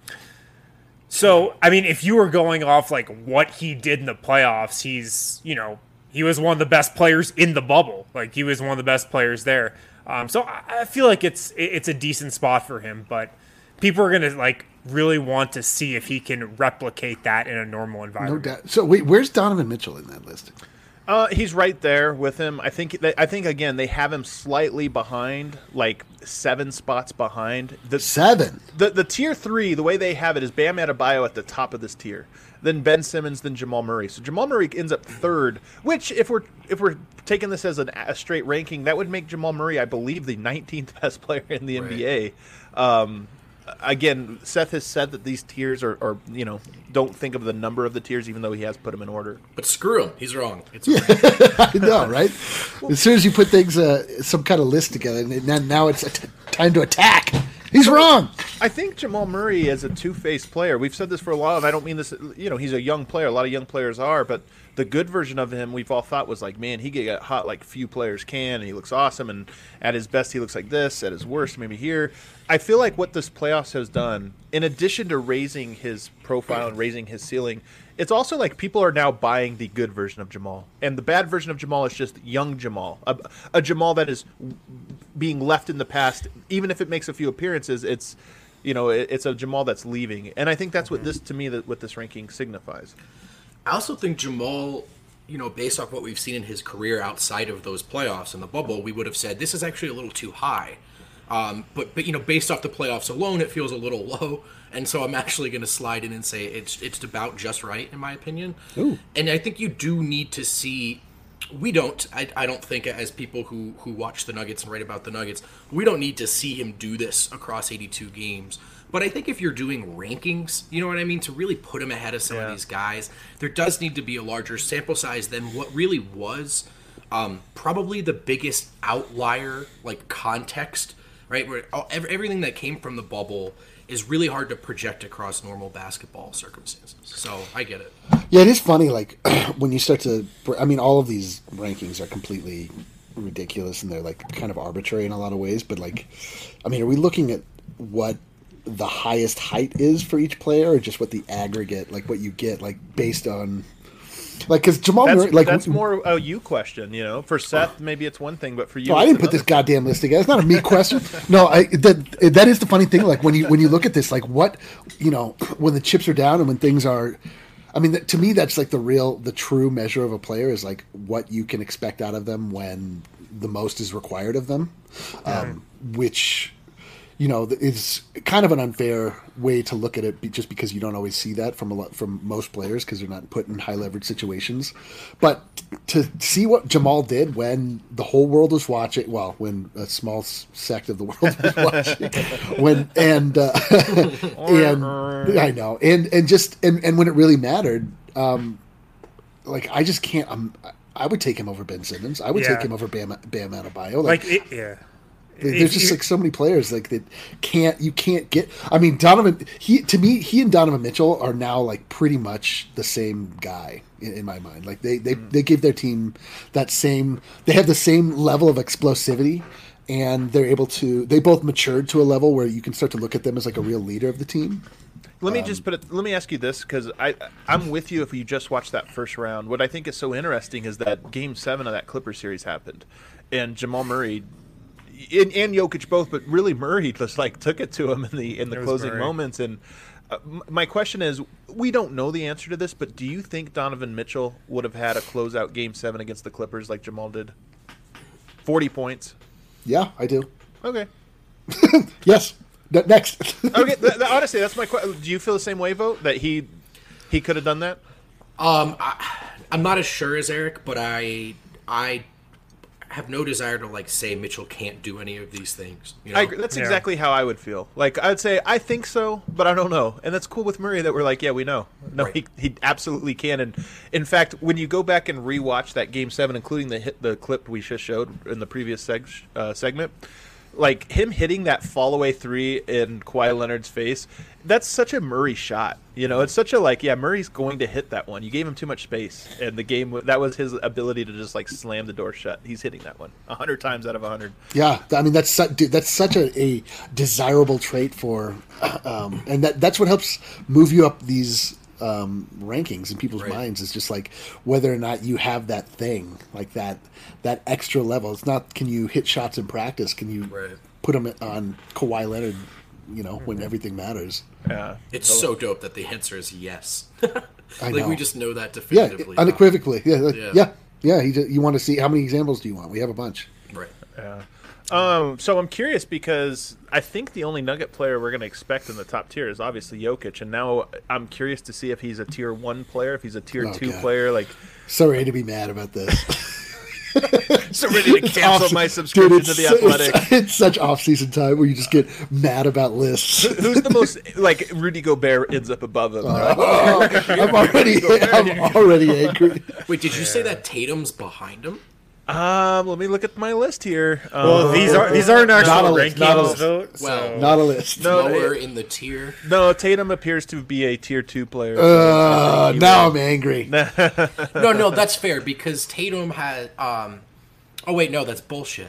so, I mean, if you were going off like what he did in the playoffs, he's, you know, he was one of the best players in the bubble. Like, he was one of the best players there. Um, so I, I feel like it's it's a decent spot for him, but people are gonna like really want to see if he can replicate that in a normal No environment. doubt. So wait, where's Donovan Mitchell in that list? Uh, he's right there with him. I think. They, I think again they have him slightly behind, like seven spots behind. The, Seven. The the tier three, the way they have it is Bam Adebayo at the top of this tier, then Ben Simmons, then Jamal Murray. So Jamal Murray ends up third. Which, if we're if we're taking this as an, a straight ranking, that would make Jamal Murray, I believe, the nineteenth best player in the Right. N B A. Um, again, Seth has said that these tiers are, are, you know, don't think of the number of the tiers, even though he has put them in order. But screw him. He's wrong. It's I know, right? As soon as you put things, uh, some kind of list together, and then now it's t- time to attack. He's wrong. I think Jamal Murray is a two-faced player. We've said this for a while, and I don't mean this, you know, he's a young player. A lot of young players are, but the good version of him we've all thought was like, man, he can get hot like few players can, and he looks awesome, and at his best he looks like this, at his worst maybe here. I feel like what this playoffs has done, in addition to raising his profile and raising his ceiling, it's also like people are now buying the good version of Jamal. And the bad version of Jamal is just young Jamal. A, a Jamal that is being left in the past. Even if it makes a few appearances, it's, you know, it, it's a Jamal that's leaving. And I think that's what this, to me, that what this ranking signifies. I also think Jamal, you know, based off what we've seen in his career outside of those playoffs in the bubble, we would have said this is actually a little too high. Um, but, but, you know, based off the playoffs alone, it feels a little low. And so I'm actually going to slide in and say it's it's about just right, in my opinion. Ooh. And I think you do need to see – we don't – I I don't think as people who, who watch the Nuggets and write about the Nuggets, we don't need to see him do this across eighty-two games. But I think if you're doing rankings, you know what I mean, to really put him ahead of some Yeah. of these guys, there does need to be a larger sample size than what really was um, probably the biggest outlier, like, context – right, where all, everything that came from the bubble is really hard to project across normal basketball circumstances. So I get it. Yeah, it is funny, like, when you start to... I mean, all of these rankings are completely ridiculous, and they're, like, kind of arbitrary in a lot of ways, but, like, I mean, are we looking at what the highest height is for each player, or just what the aggregate, like, what you get, like, based on... Like, because Jamal That's, Murray... Like, that's more a you question, you know. For Seth, maybe it's one thing, but for you, No, I it's didn't put this another. goddamn list together. It's not a me question. No, I, that that is the funny thing. Like when you when you look at this, like what you know, when the chips are down and when things are, I mean, to me, that's like the real, the true measure of a player is like what you can expect out of them when the most is required of them, um, which. You know, it's kind of an unfair way to look at it, just because you don't always see that from a lot from most players because they're not put in high leverage situations. But to see what Jamal did when the whole world was watching, well, when a small sect of the world was watching, when and uh, and I know, and and just and, and when it really mattered, um, like I just can't. Um, I would take him over Ben Simmons. I would Yeah. take him over Bam Bam Adebayo. Like, it, yeah. There's If just you- like so many players like that can't you can't get. I mean, Donovan. He to me, he and Donovan Mitchell are now like pretty much the same guy in, in my mind. Like they they they give their team that same. They have the same level of explosivity, and they're able to. They both matured to a level where you can start to look at them as like a real leader of the team. Let me just put it. Let me ask you this, because I I'm with you. If you just watch that first round, what I think is so interesting is that Game Seven of that Clippers series happened, and Jamal Murray. And, and Jokic both, but really Murray just like took it to him in the in the It was closing Murray. moments. And uh, m- my question is, we don't know the answer to this, but do you think Donovan Mitchell would have had a closeout Game Seven against the Clippers like Jamal did? Forty points. Yeah, I do. Okay. Yes. Ne- Next. Okay. th- th- honestly, that's my question. Do you feel the same way, Vote, that he he could have done that? Um, I, I'm not as sure as Eric, but I I have no desire to like say Mitchell can't do any of these things. You know? I agree. That's Yeah. exactly how I would feel. Like I'd say I think so, but I don't know. And that's cool with Murray that we're like, yeah, we know. No, Right. he he absolutely can. And in fact, when you go back and rewatch that Game Seven, including the hit the clip we just showed in the previous seg- uh, segment, like him hitting that fall away three in Kawhi Leonard's face, that's such a Murray shot. You know, it's such a like, yeah, Murray's going to hit that one. You gave him too much space, and the game that was his ability to just like slam the door shut. He's hitting that one a hundred times out of a hundred. Yeah, I mean that's su- dude, that's such a, a desirable trait for, um, and that that's what helps move you up these um, rankings in people's Right. minds. Is just like whether or not you have that thing, like that that extra level. It's not can you hit shots in practice? Can you Right. put them on Kawhi Leonard? You know, when everything matters. Yeah, It's so dope that the answer is yes. I like know. we just know that Yeah, definitively. unequivocally. Yeah, like, Yeah. yeah, yeah. He ju- you want to see how many examples do you want? We have a bunch. Right. Yeah. Um, so I'm curious because I think the only Nugget player we're going to expect in the top tier is obviously Jokic, and now I'm curious to see if he's a tier one player, if he's a tier Oh, two God. player. Like, So ready to be mad about this. so ready to cancel off- my subscription Dude, to it's the so- Athletic. It's, it's such off-season time where you just get mad about lists. Who's the most like Rudy Gobert ends up above him? Right? Oh, I'm already, I'm already angry. Wait, did you say that Tatum's behind him? Um, let me look at my list here. Well, Um, these are these aren't Not a actual list, not a rankings, list. though. Well, so- Not a list. No, Lower it- in the tier. no, Tatum appears to be a tier two player. Uh, now I'm angry. No, no, that's fair because Tatum had. Um, oh wait, no, that's bullshit.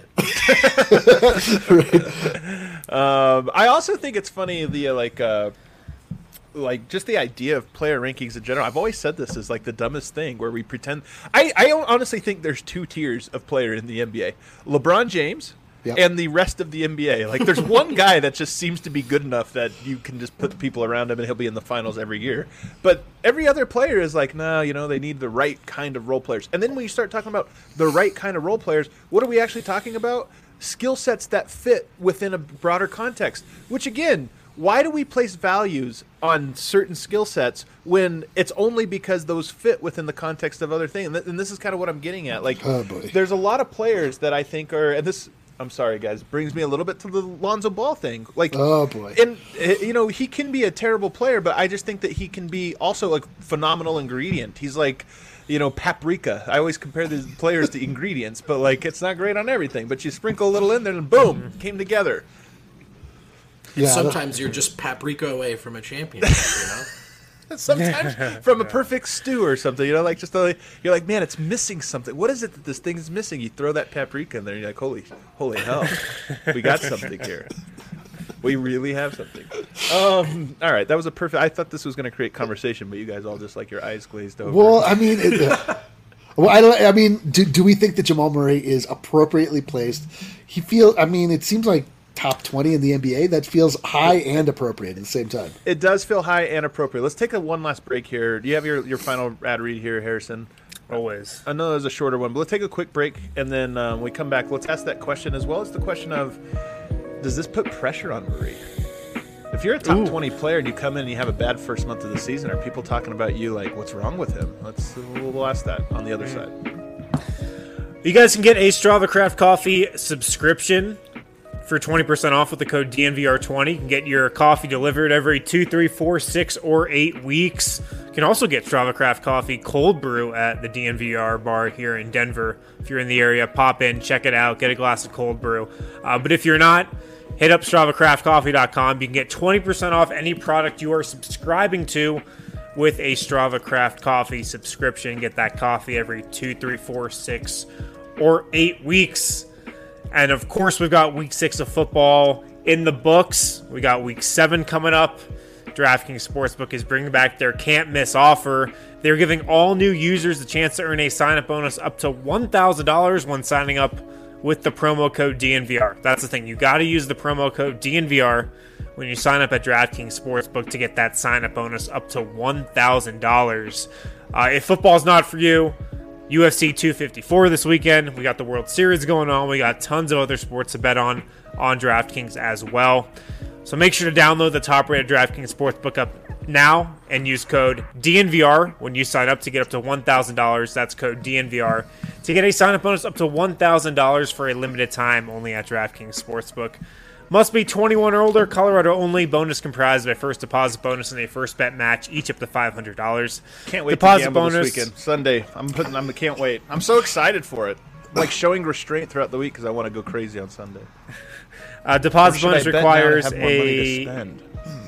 Um, I also think it's funny the uh, like uh, like just the idea of player rankings in general. I've always said this is like the dumbest thing where we pretend. I I honestly think there's two tiers of player in the N B A: LeBron James. Yep. And the rest of the N B A. Like, there's one guy that just seems to be good enough that you can just put people around him and he'll be in the finals every year. But every other player is like, no, you know, they need the right kind of role players. And then when you start talking about the right kind of role players, what are we actually talking about? Skill sets that fit within a broader context. Which, again, why do we place values on certain skill sets when it's only because those fit within the context of other things? And, th- and this is kind of what I'm getting at. Like, Oh, boy. there's a lot of players that I think are, and this, I'm sorry, guys, brings me a little bit to the Lonzo Ball thing. Like, Oh, boy. and uh, you know, he can be a terrible player, but I just think that he can be also a phenomenal ingredient. He's like, you know, paprika. I always compare these players to ingredients, but like, it's not great on everything. But you sprinkle a little in there, and boom, came together. Yeah, Sometimes you're just paprika away from a championship, you know? Sometimes from a perfect stew or something, you know, like just a, you're like, man, it's missing something. What is it that this thing is missing? You throw that paprika in there, and you're like, holy, holy hell, we got something here. We really have something. Um, all right, that was a perfect. I thought this was going to create conversation, but you guys all just like your eyes glazed over. Well, I mean, it, uh, well, I don't. I mean, do, do we think that Jamal Murray is appropriately placed? He feel. I mean, it seems like top twenty in the N B A. That feels high and appropriate at the same time. It does feel high and appropriate. Let's take a one last break here. Do you have your, your final ad read here, Harrison? Always. I know there's a shorter one, but let's take a quick break, and then um, we come back. Let's ask that question as well as the question of, does this put pressure on Murray? If you're a top Ooh. twenty player and you come in and you have a bad first month of the season, are people talking about you like, what's wrong with him? Let's we'll, we'll ask that on the other side. You guys can get a Strava Craft Coffee subscription for twenty percent off with the code D N V R twenty. You can get your coffee delivered every two, three, four, six, or eight weeks. You can also get Strava Craft Coffee cold brew at the D N V R bar here in Denver. If you're in the area, pop in, check it out, get a glass of cold brew. Uh, but if you're not, hit up Strava Craft Coffee dot com. You can get twenty percent off any product you are subscribing to with a Strava Craft Coffee subscription. Get that coffee every two, three, four, six, or eight weeks. And of course, we've got week six of football in the books. We got week seven coming up. DraftKings Sportsbook is bringing back their can't miss offer. They're giving all new users the chance to earn a sign up bonus up to one thousand dollars when signing up with the promo code D N V R. That's the thing. You got to use the promo code D N V R when you sign up at DraftKings Sportsbook to get that sign up bonus up to one thousand dollars. Uh, if football's not for you, U F C two fifty-four this weekend. We got the World Series going on. We got tons of other sports to bet on on DraftKings as well. So make sure to download the top-rated DraftKings Sportsbook app now and use code D N V R when you sign up to get up to one thousand dollars. That's code D N V R to get a sign-up bonus up to one thousand dollars for a limited time only at DraftKings Sportsbook. Must be twenty-one or older. Colorado only. Bonus comprised of a first deposit bonus and a first bet match, each up to five hundred dollars. Can't wait deposit to gamble bonus this weekend. Sunday. I'm putting. I'm. Can't wait. I'm so excited for it. I'm like showing restraint throughout the week because I want to go crazy on Sunday. Uh, deposit Or should I bonus bet now and requires have more money to a spend?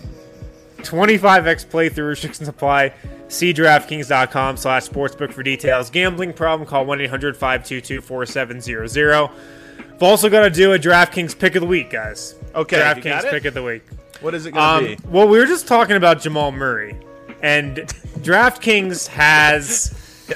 twenty-five x playthrough. Restrictions apply. See DraftKings.com slash sportsbook for details. Gambling problem? Call one eight hundred five two two four seven zero zero. We've also got to do a DraftKings pick of the week, guys. Okay, you got DraftKings it? pick of the week. What is it going to Um, be? well, we were just talking about Jamal Murray, and DraftKings has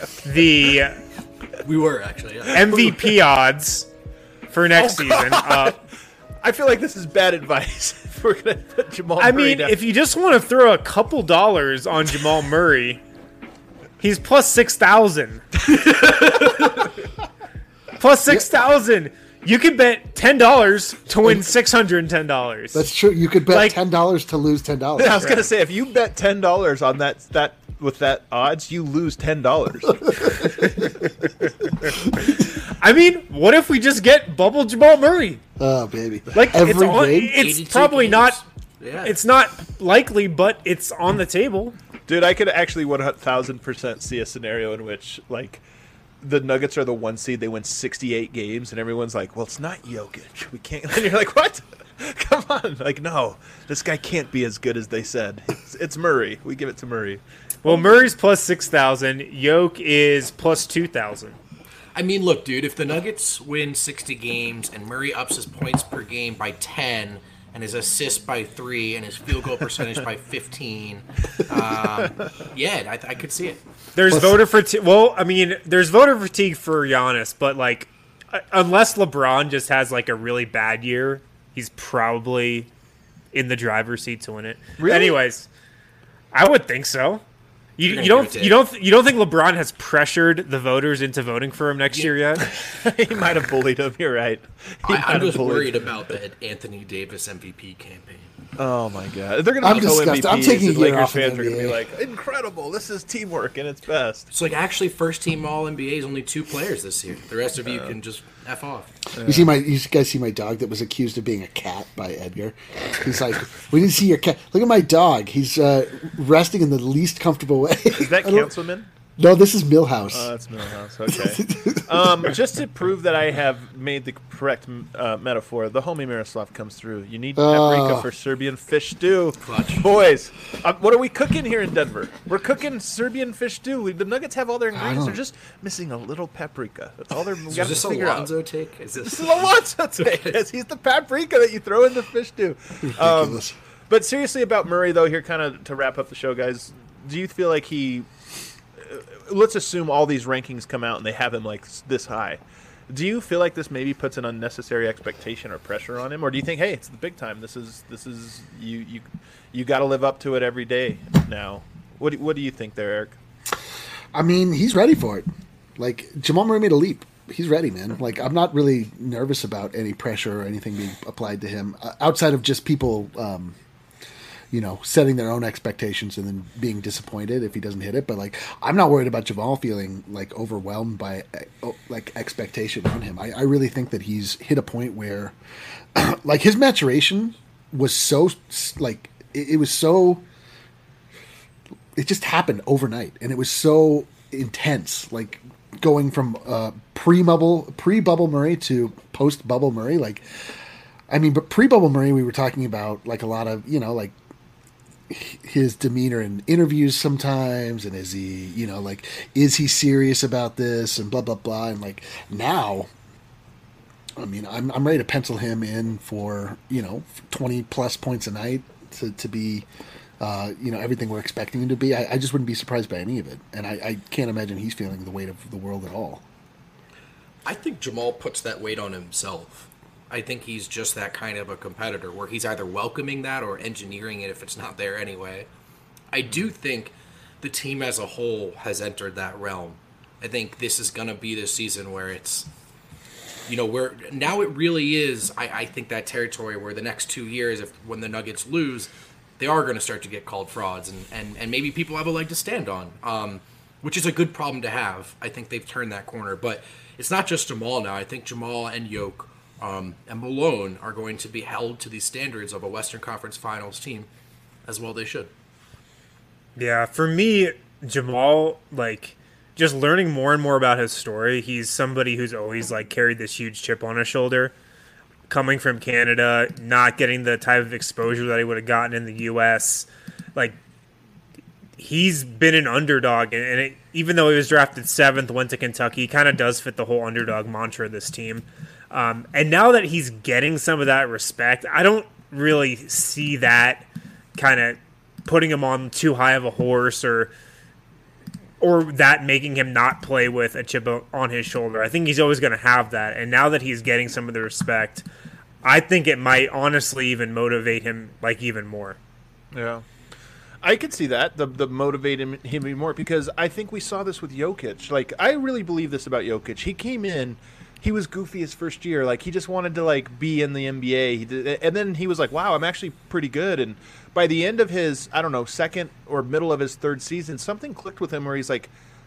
the We were, actually, yeah. M V P odds for next Oh, season. Uh, I feel like this is bad advice. If we're going to put Jamal I Murray mean, down. if you just want to throw a couple dollars on Jamal Murray, he's plus six thousand. Plus six thousand. You could bet ten dollars to win six hundred and ten dollars. That's true. You could bet Like- ten dollars to lose ten dollars. I was going to say, if you bet ten dollars on that that with that odds, you lose ten dollars. I mean, what if we just get bubble Jamal Murray? Oh baby! Like Every it's on, game? it's eighty-two probably games. not. Yeah. It's not likely, but it's on the table. Dude, I could actually one thousand percent see a scenario in which, like, the Nuggets are the one seed, they win sixty-eight games, and everyone's like, well, it's not Jokic. We can't. And you're like, what? Come on. Like, no, this guy can't be as good as they said. It's, it's Murray. We give it to Murray. Well, Murray's plus six thousand. Yoke is plus two thousand. I mean, look, dude, if the Nuggets win sixty games and Murray ups his points per game by ten and his assists by three and his field goal percentage by fifteen, um, yeah, I, I could see it. There's voter fatigue. Well, I mean, there's voter fatigue for Giannis, but like, uh, unless LeBron just has like a really bad year, he's probably in the driver's seat to win it. Really? Anyways, I would think so. You, You're you gonna don't give it to you don't you don't think LeBron has pressured the voters into voting for him next year yet? He might have bullied him. You're right. He I, might I'm have just bullied worried him. about the Anthony Davis M V P campaign. Oh, my God. They're going I'm to be co-M V Ps, disgusted. I'm taking a and year Lakers off of fans are going to be N B A. like, incredible. This is teamwork at its best. It's like actually first team All N B A is only two players this year. The rest of you can just F off. You see my, you guys see my dog that was accused of being a cat by Edgar. He's like, we didn't see your cat. Look at my dog. He's uh, resting in the least comfortable way. Is that I don't- Councilman? No, this is Millhouse. Oh, that's Millhouse. Okay. um, just to prove that I have made the correct uh, metaphor, the homie Miroslav comes through. You need paprika Oh. for Serbian fish stew. Clutch. Boys, uh, what are we cooking here in Denver? We're cooking Serbian fish stew. We, the Nuggets have all their ingredients. They're don't- just missing a little paprika. That's all they're we So got is to this figure out. Alonzo take? Is this? This is Alonzo take. Yes, he's the paprika that you throw in the fish stew. Um, Ridiculous. but seriously about Murray, though, here kind of to wrap up the show, guys, do you feel like he... Uh, let's assume all these rankings come out and they have him, like, s- this high. Do you feel like this maybe puts an unnecessary expectation or pressure on him? Or do you think, hey, it's the big time. This is, this is you you, you got to live up to it every day now. What do, what do you think there, Eric? I mean, he's ready for it. Like, Jamal Murray made a leap. He's ready, man. Like, I'm not really nervous about any pressure or anything being applied to him uh, outside of just people, um, you know, setting their own expectations and then being disappointed if he doesn't hit it. But, like, I'm not worried about Jamal feeling, like, overwhelmed by, uh, like, expectation on him. I, I really think that he's hit a point where, like, his maturation was so, like, it, it was so, it just happened overnight. And it was so intense, like, going from uh, pre-bubble pre-bubble Murray to post-bubble Murray. Like, I mean, but pre-bubble Murray, we were talking about, like, a lot of, you know, like, his demeanor in interviews sometimes, and is he, you know, like, is he serious about this, and blah blah blah. And like, now, I mean, I'm I'm ready to pencil him in for, you know, twenty plus points a night to to be, uh, you know, everything we're expecting him to be. I, I just wouldn't be surprised by any of it, and I, I can't imagine he's feeling the weight of the world at all. I think Jamal puts that weight on himself. I think he's just that kind of a competitor where he's either welcoming that or engineering it if it's not there anyway. I do think the team as a whole has entered that realm. I think this is going to be the season where it's, you know, where now it really is, I, I think, that territory where the next two years, if when the Nuggets lose, they are going to start to get called frauds, and, and, and maybe people have a leg to stand on, um, which is a good problem to have. I think they've turned that corner. But it's not just Jamal now. I think Jamal and Yoke Um, and Malone are going to be held to the standards of a Western Conference Finals team, as well they should. Yeah, for me, Jamal, like, just learning more and more about his story, he's somebody who's always, like, carried this huge chip on his shoulder. Coming from Canada, not getting the type of exposure that he would have gotten in the U S. Like, he's been an underdog, and it, even though he was drafted seventh, went to Kentucky, he kind of does fit the whole underdog mantra of this team. Um, and now that he's getting some of that respect, I don't really see that kind of putting him on too high of a horse, or or that making him not play with a chip on his shoulder. I think he's always going to have that. And now that he's getting some of the respect, I think it might honestly even motivate him, like, even more. Yeah. I could see that, the the motivate him, him even more, because I think we saw this with Jokic. Like, I really believe this about Jokic. He came in, he was goofy his first year. Like, he just wanted to, like, be in the N B A. He did, and then he was like, wow, I'm actually pretty good. And by the end of his, I don't know, second or middle of his third season, something clicked with him where he's like,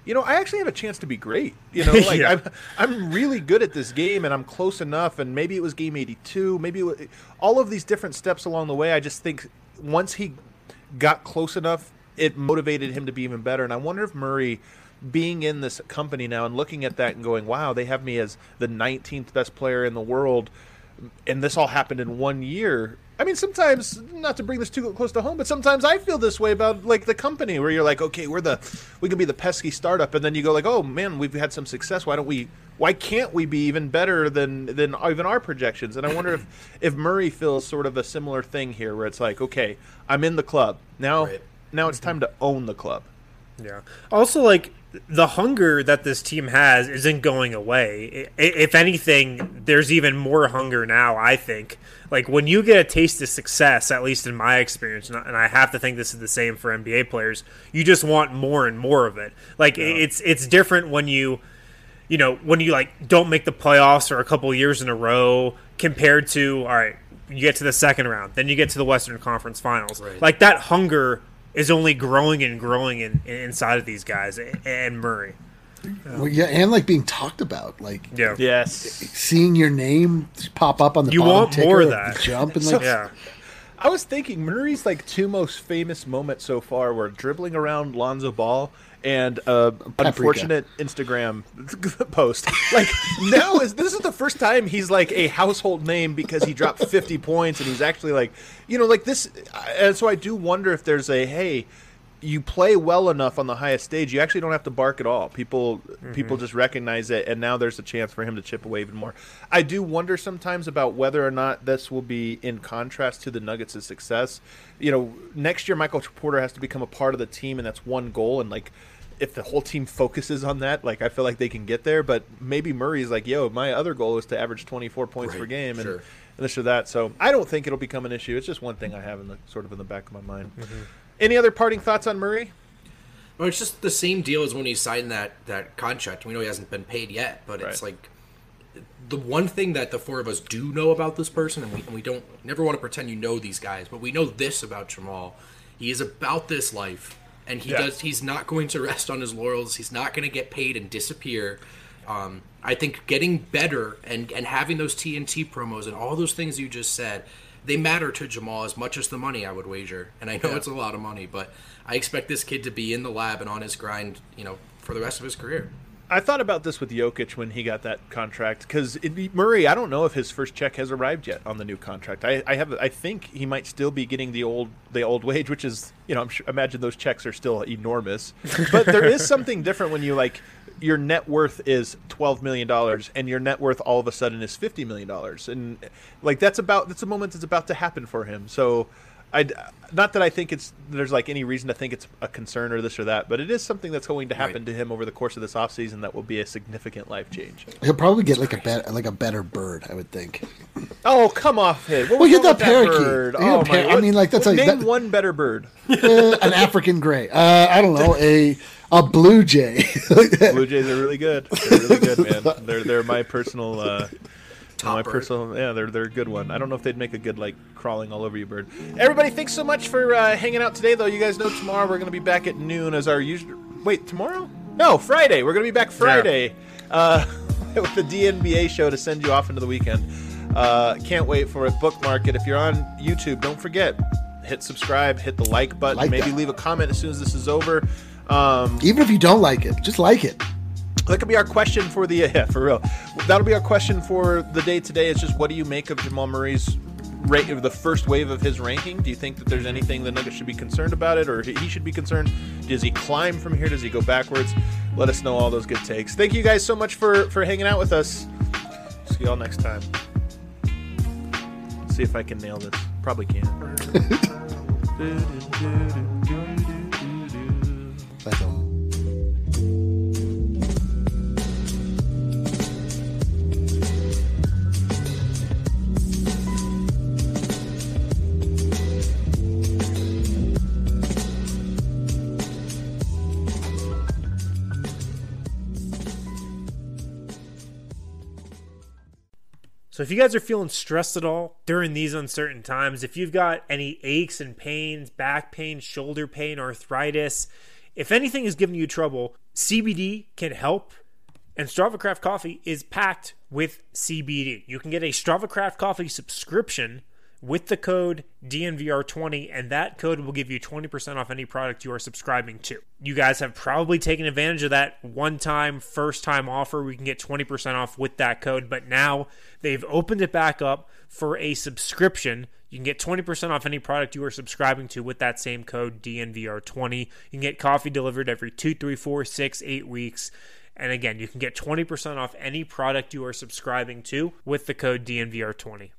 you know, I actually have a chance to be great. You know, like Yeah. I'm, I'm really good at this game, and I'm close enough. And maybe it was game eighty-two. Maybe it was, all of these different steps along the way. I just think once he got close enough, it motivated him to be even better. And I wonder if Murray, being in this company now and looking at that and going, wow, they have me as the nineteenth best player in the world, and this all happened in one year. I mean, sometimes, not to bring this too close to home, but sometimes I feel this way about, like, the company, where you're like, okay, we're the, we can be the pesky startup, and then you go like, oh man, we've had some success. Why don't we? Why can't we be even better than than even our projections? And I wonder if if Murray feels sort of a similar thing here, where it's like, okay, I'm in the club now. Right. Now it's time to own the club. Yeah. Also, like, the hunger that this team has isn't going away. I- If anything, there's even more hunger now, I think. Like, when you get a taste of success, at least in my experience, and I- and I have to think this is the same for N B A players, you just want more and more of it. Like, it's it's different when you, you know, when you, like, don't make the playoffs for a couple years in a row compared to, all right, you get to the second round, then you get to the Western Conference Finals. Right. Like, that hunger is only growing and growing in, in, inside of these guys and Murray. Well, yeah, and like being talked about, like Yeah. Yes. seeing your name pop up on the You bottom want ticker more of of that. the jump, and So- like Yeah. I was thinking Murray's like two most famous moments so far were dribbling around Lonzo Ball and uh, unfortunate Instagram post. Like now is this is the first time he's like a household name because he dropped fifty points and he's actually like, you know, like this. And so I do wonder if there's a hey. You play well enough on the highest stage, you actually don't have to bark at all. People Mm-hmm. people just recognize it, and now there's a chance for him to chip away even more. I do wonder sometimes about whether or not this will be in contrast to the Nuggets' success. You know, next year Michael Porter has to become a part of the team, and that's one goal. And like, if the whole team focuses on that, like I feel like they can get there. But maybe Murray's like, yo, my other goal is to average twenty-four points Right, per game, and, sure. and this or that. So I don't think it'll become an issue. It's just one thing I have in the sort of in the back of my mind. Mm-hmm. Any other parting thoughts on Murray? Well, it's just the same deal as when he signed that, that contract. We know he hasn't been paid yet, but it's Right. like the one thing that the four of us do know about this person, and we, and we don't never want to pretend you know these guys, but we know this about Jamal. He is about this life, and he Yeah. does. He's not going to rest on his laurels. He's not going to get paid and disappear. Um, I think getting better and, and having those T N T promos and all those things you just said, they matter to Jamal as much as the money, I would wager. And I know Yeah. it's a lot of money, but I expect this kid to be in the lab and on his grind, you know, for the rest of his career. I thought about this with Jokic when he got that contract because Murray. I don't know if his first check has arrived yet on the new contract. I, I have. I think he might still be getting the old the old wage, which is you know I'm sure, imagine those checks are still enormous. But there is something different when you like your net worth is twelve million dollars and your net worth all of a sudden is fifty million dollars, and like that's about that's a moment that's about to happen for him. So. I, not that I think it's there's like any reason to think it's a concern or this or that, but it is something that's going to happen Right. to him over the course of this offseason that will be a significant life change. he'll probably get like a bet, like a better bird, I would think. Oh, come off it. What Well, was get wrong that with parakeet. bird? Get Oh, a par- my, I what- mean, like, that's what- like- name that- one better bird. Uh, an African gray. Uh, I don't know, a a blue jay. Blue Jays are really good. They're really good, man. They're they're my personal uh Top my bird. personal yeah, they're they're a good one. I don't know if they'd make a good like crawling all over you bird. Everybody, thanks so much for uh, hanging out today though. You guys know tomorrow we're gonna be back at noon as our usual wait, tomorrow? No, Friday. We're gonna be back Friday. Uh with the D N B A show to send you off into the weekend. Uh can't wait for it. Bookmark it. If you're on YouTube, don't forget, hit subscribe, hit the like button, Like maybe that. leave a comment as soon as this is over. Um Even if you don't like it, just like it. That could be our question for the yeah, for real. That'll be our question for the day today. It's just what do you make of Jamal Murray's rate of the first wave of his ranking? Do you think that there's anything the Nuggets should be concerned about it, or he should be concerned? Does he climb from here? Does he go backwards? Let us know all those good takes. Thank you guys so much for for hanging out with us. See y'all next time. See if I can nail this. Probably can't. That's all. So if you guys are feeling stressed at all during these uncertain times, if you've got any aches and pains, back pain, shoulder pain, arthritis, If anything is giving you trouble, C B D can help. And Strava Craft Coffee is packed with C B D. You can get a Strava Craft Coffee subscription with the code D N V R twenty, and that code will give you twenty percent off any product you are subscribing to. You guys have probably taken advantage of that one-time, first-time offer. We can get twenty percent off with that code, but now they've opened it back up for a subscription. You can get twenty percent off any product you are subscribing to with that same code D N V R twenty. You can get coffee delivered every two, three, four, six, eight weeks. And again, you can get twenty percent off any product you are subscribing to with the code D N V R twenty.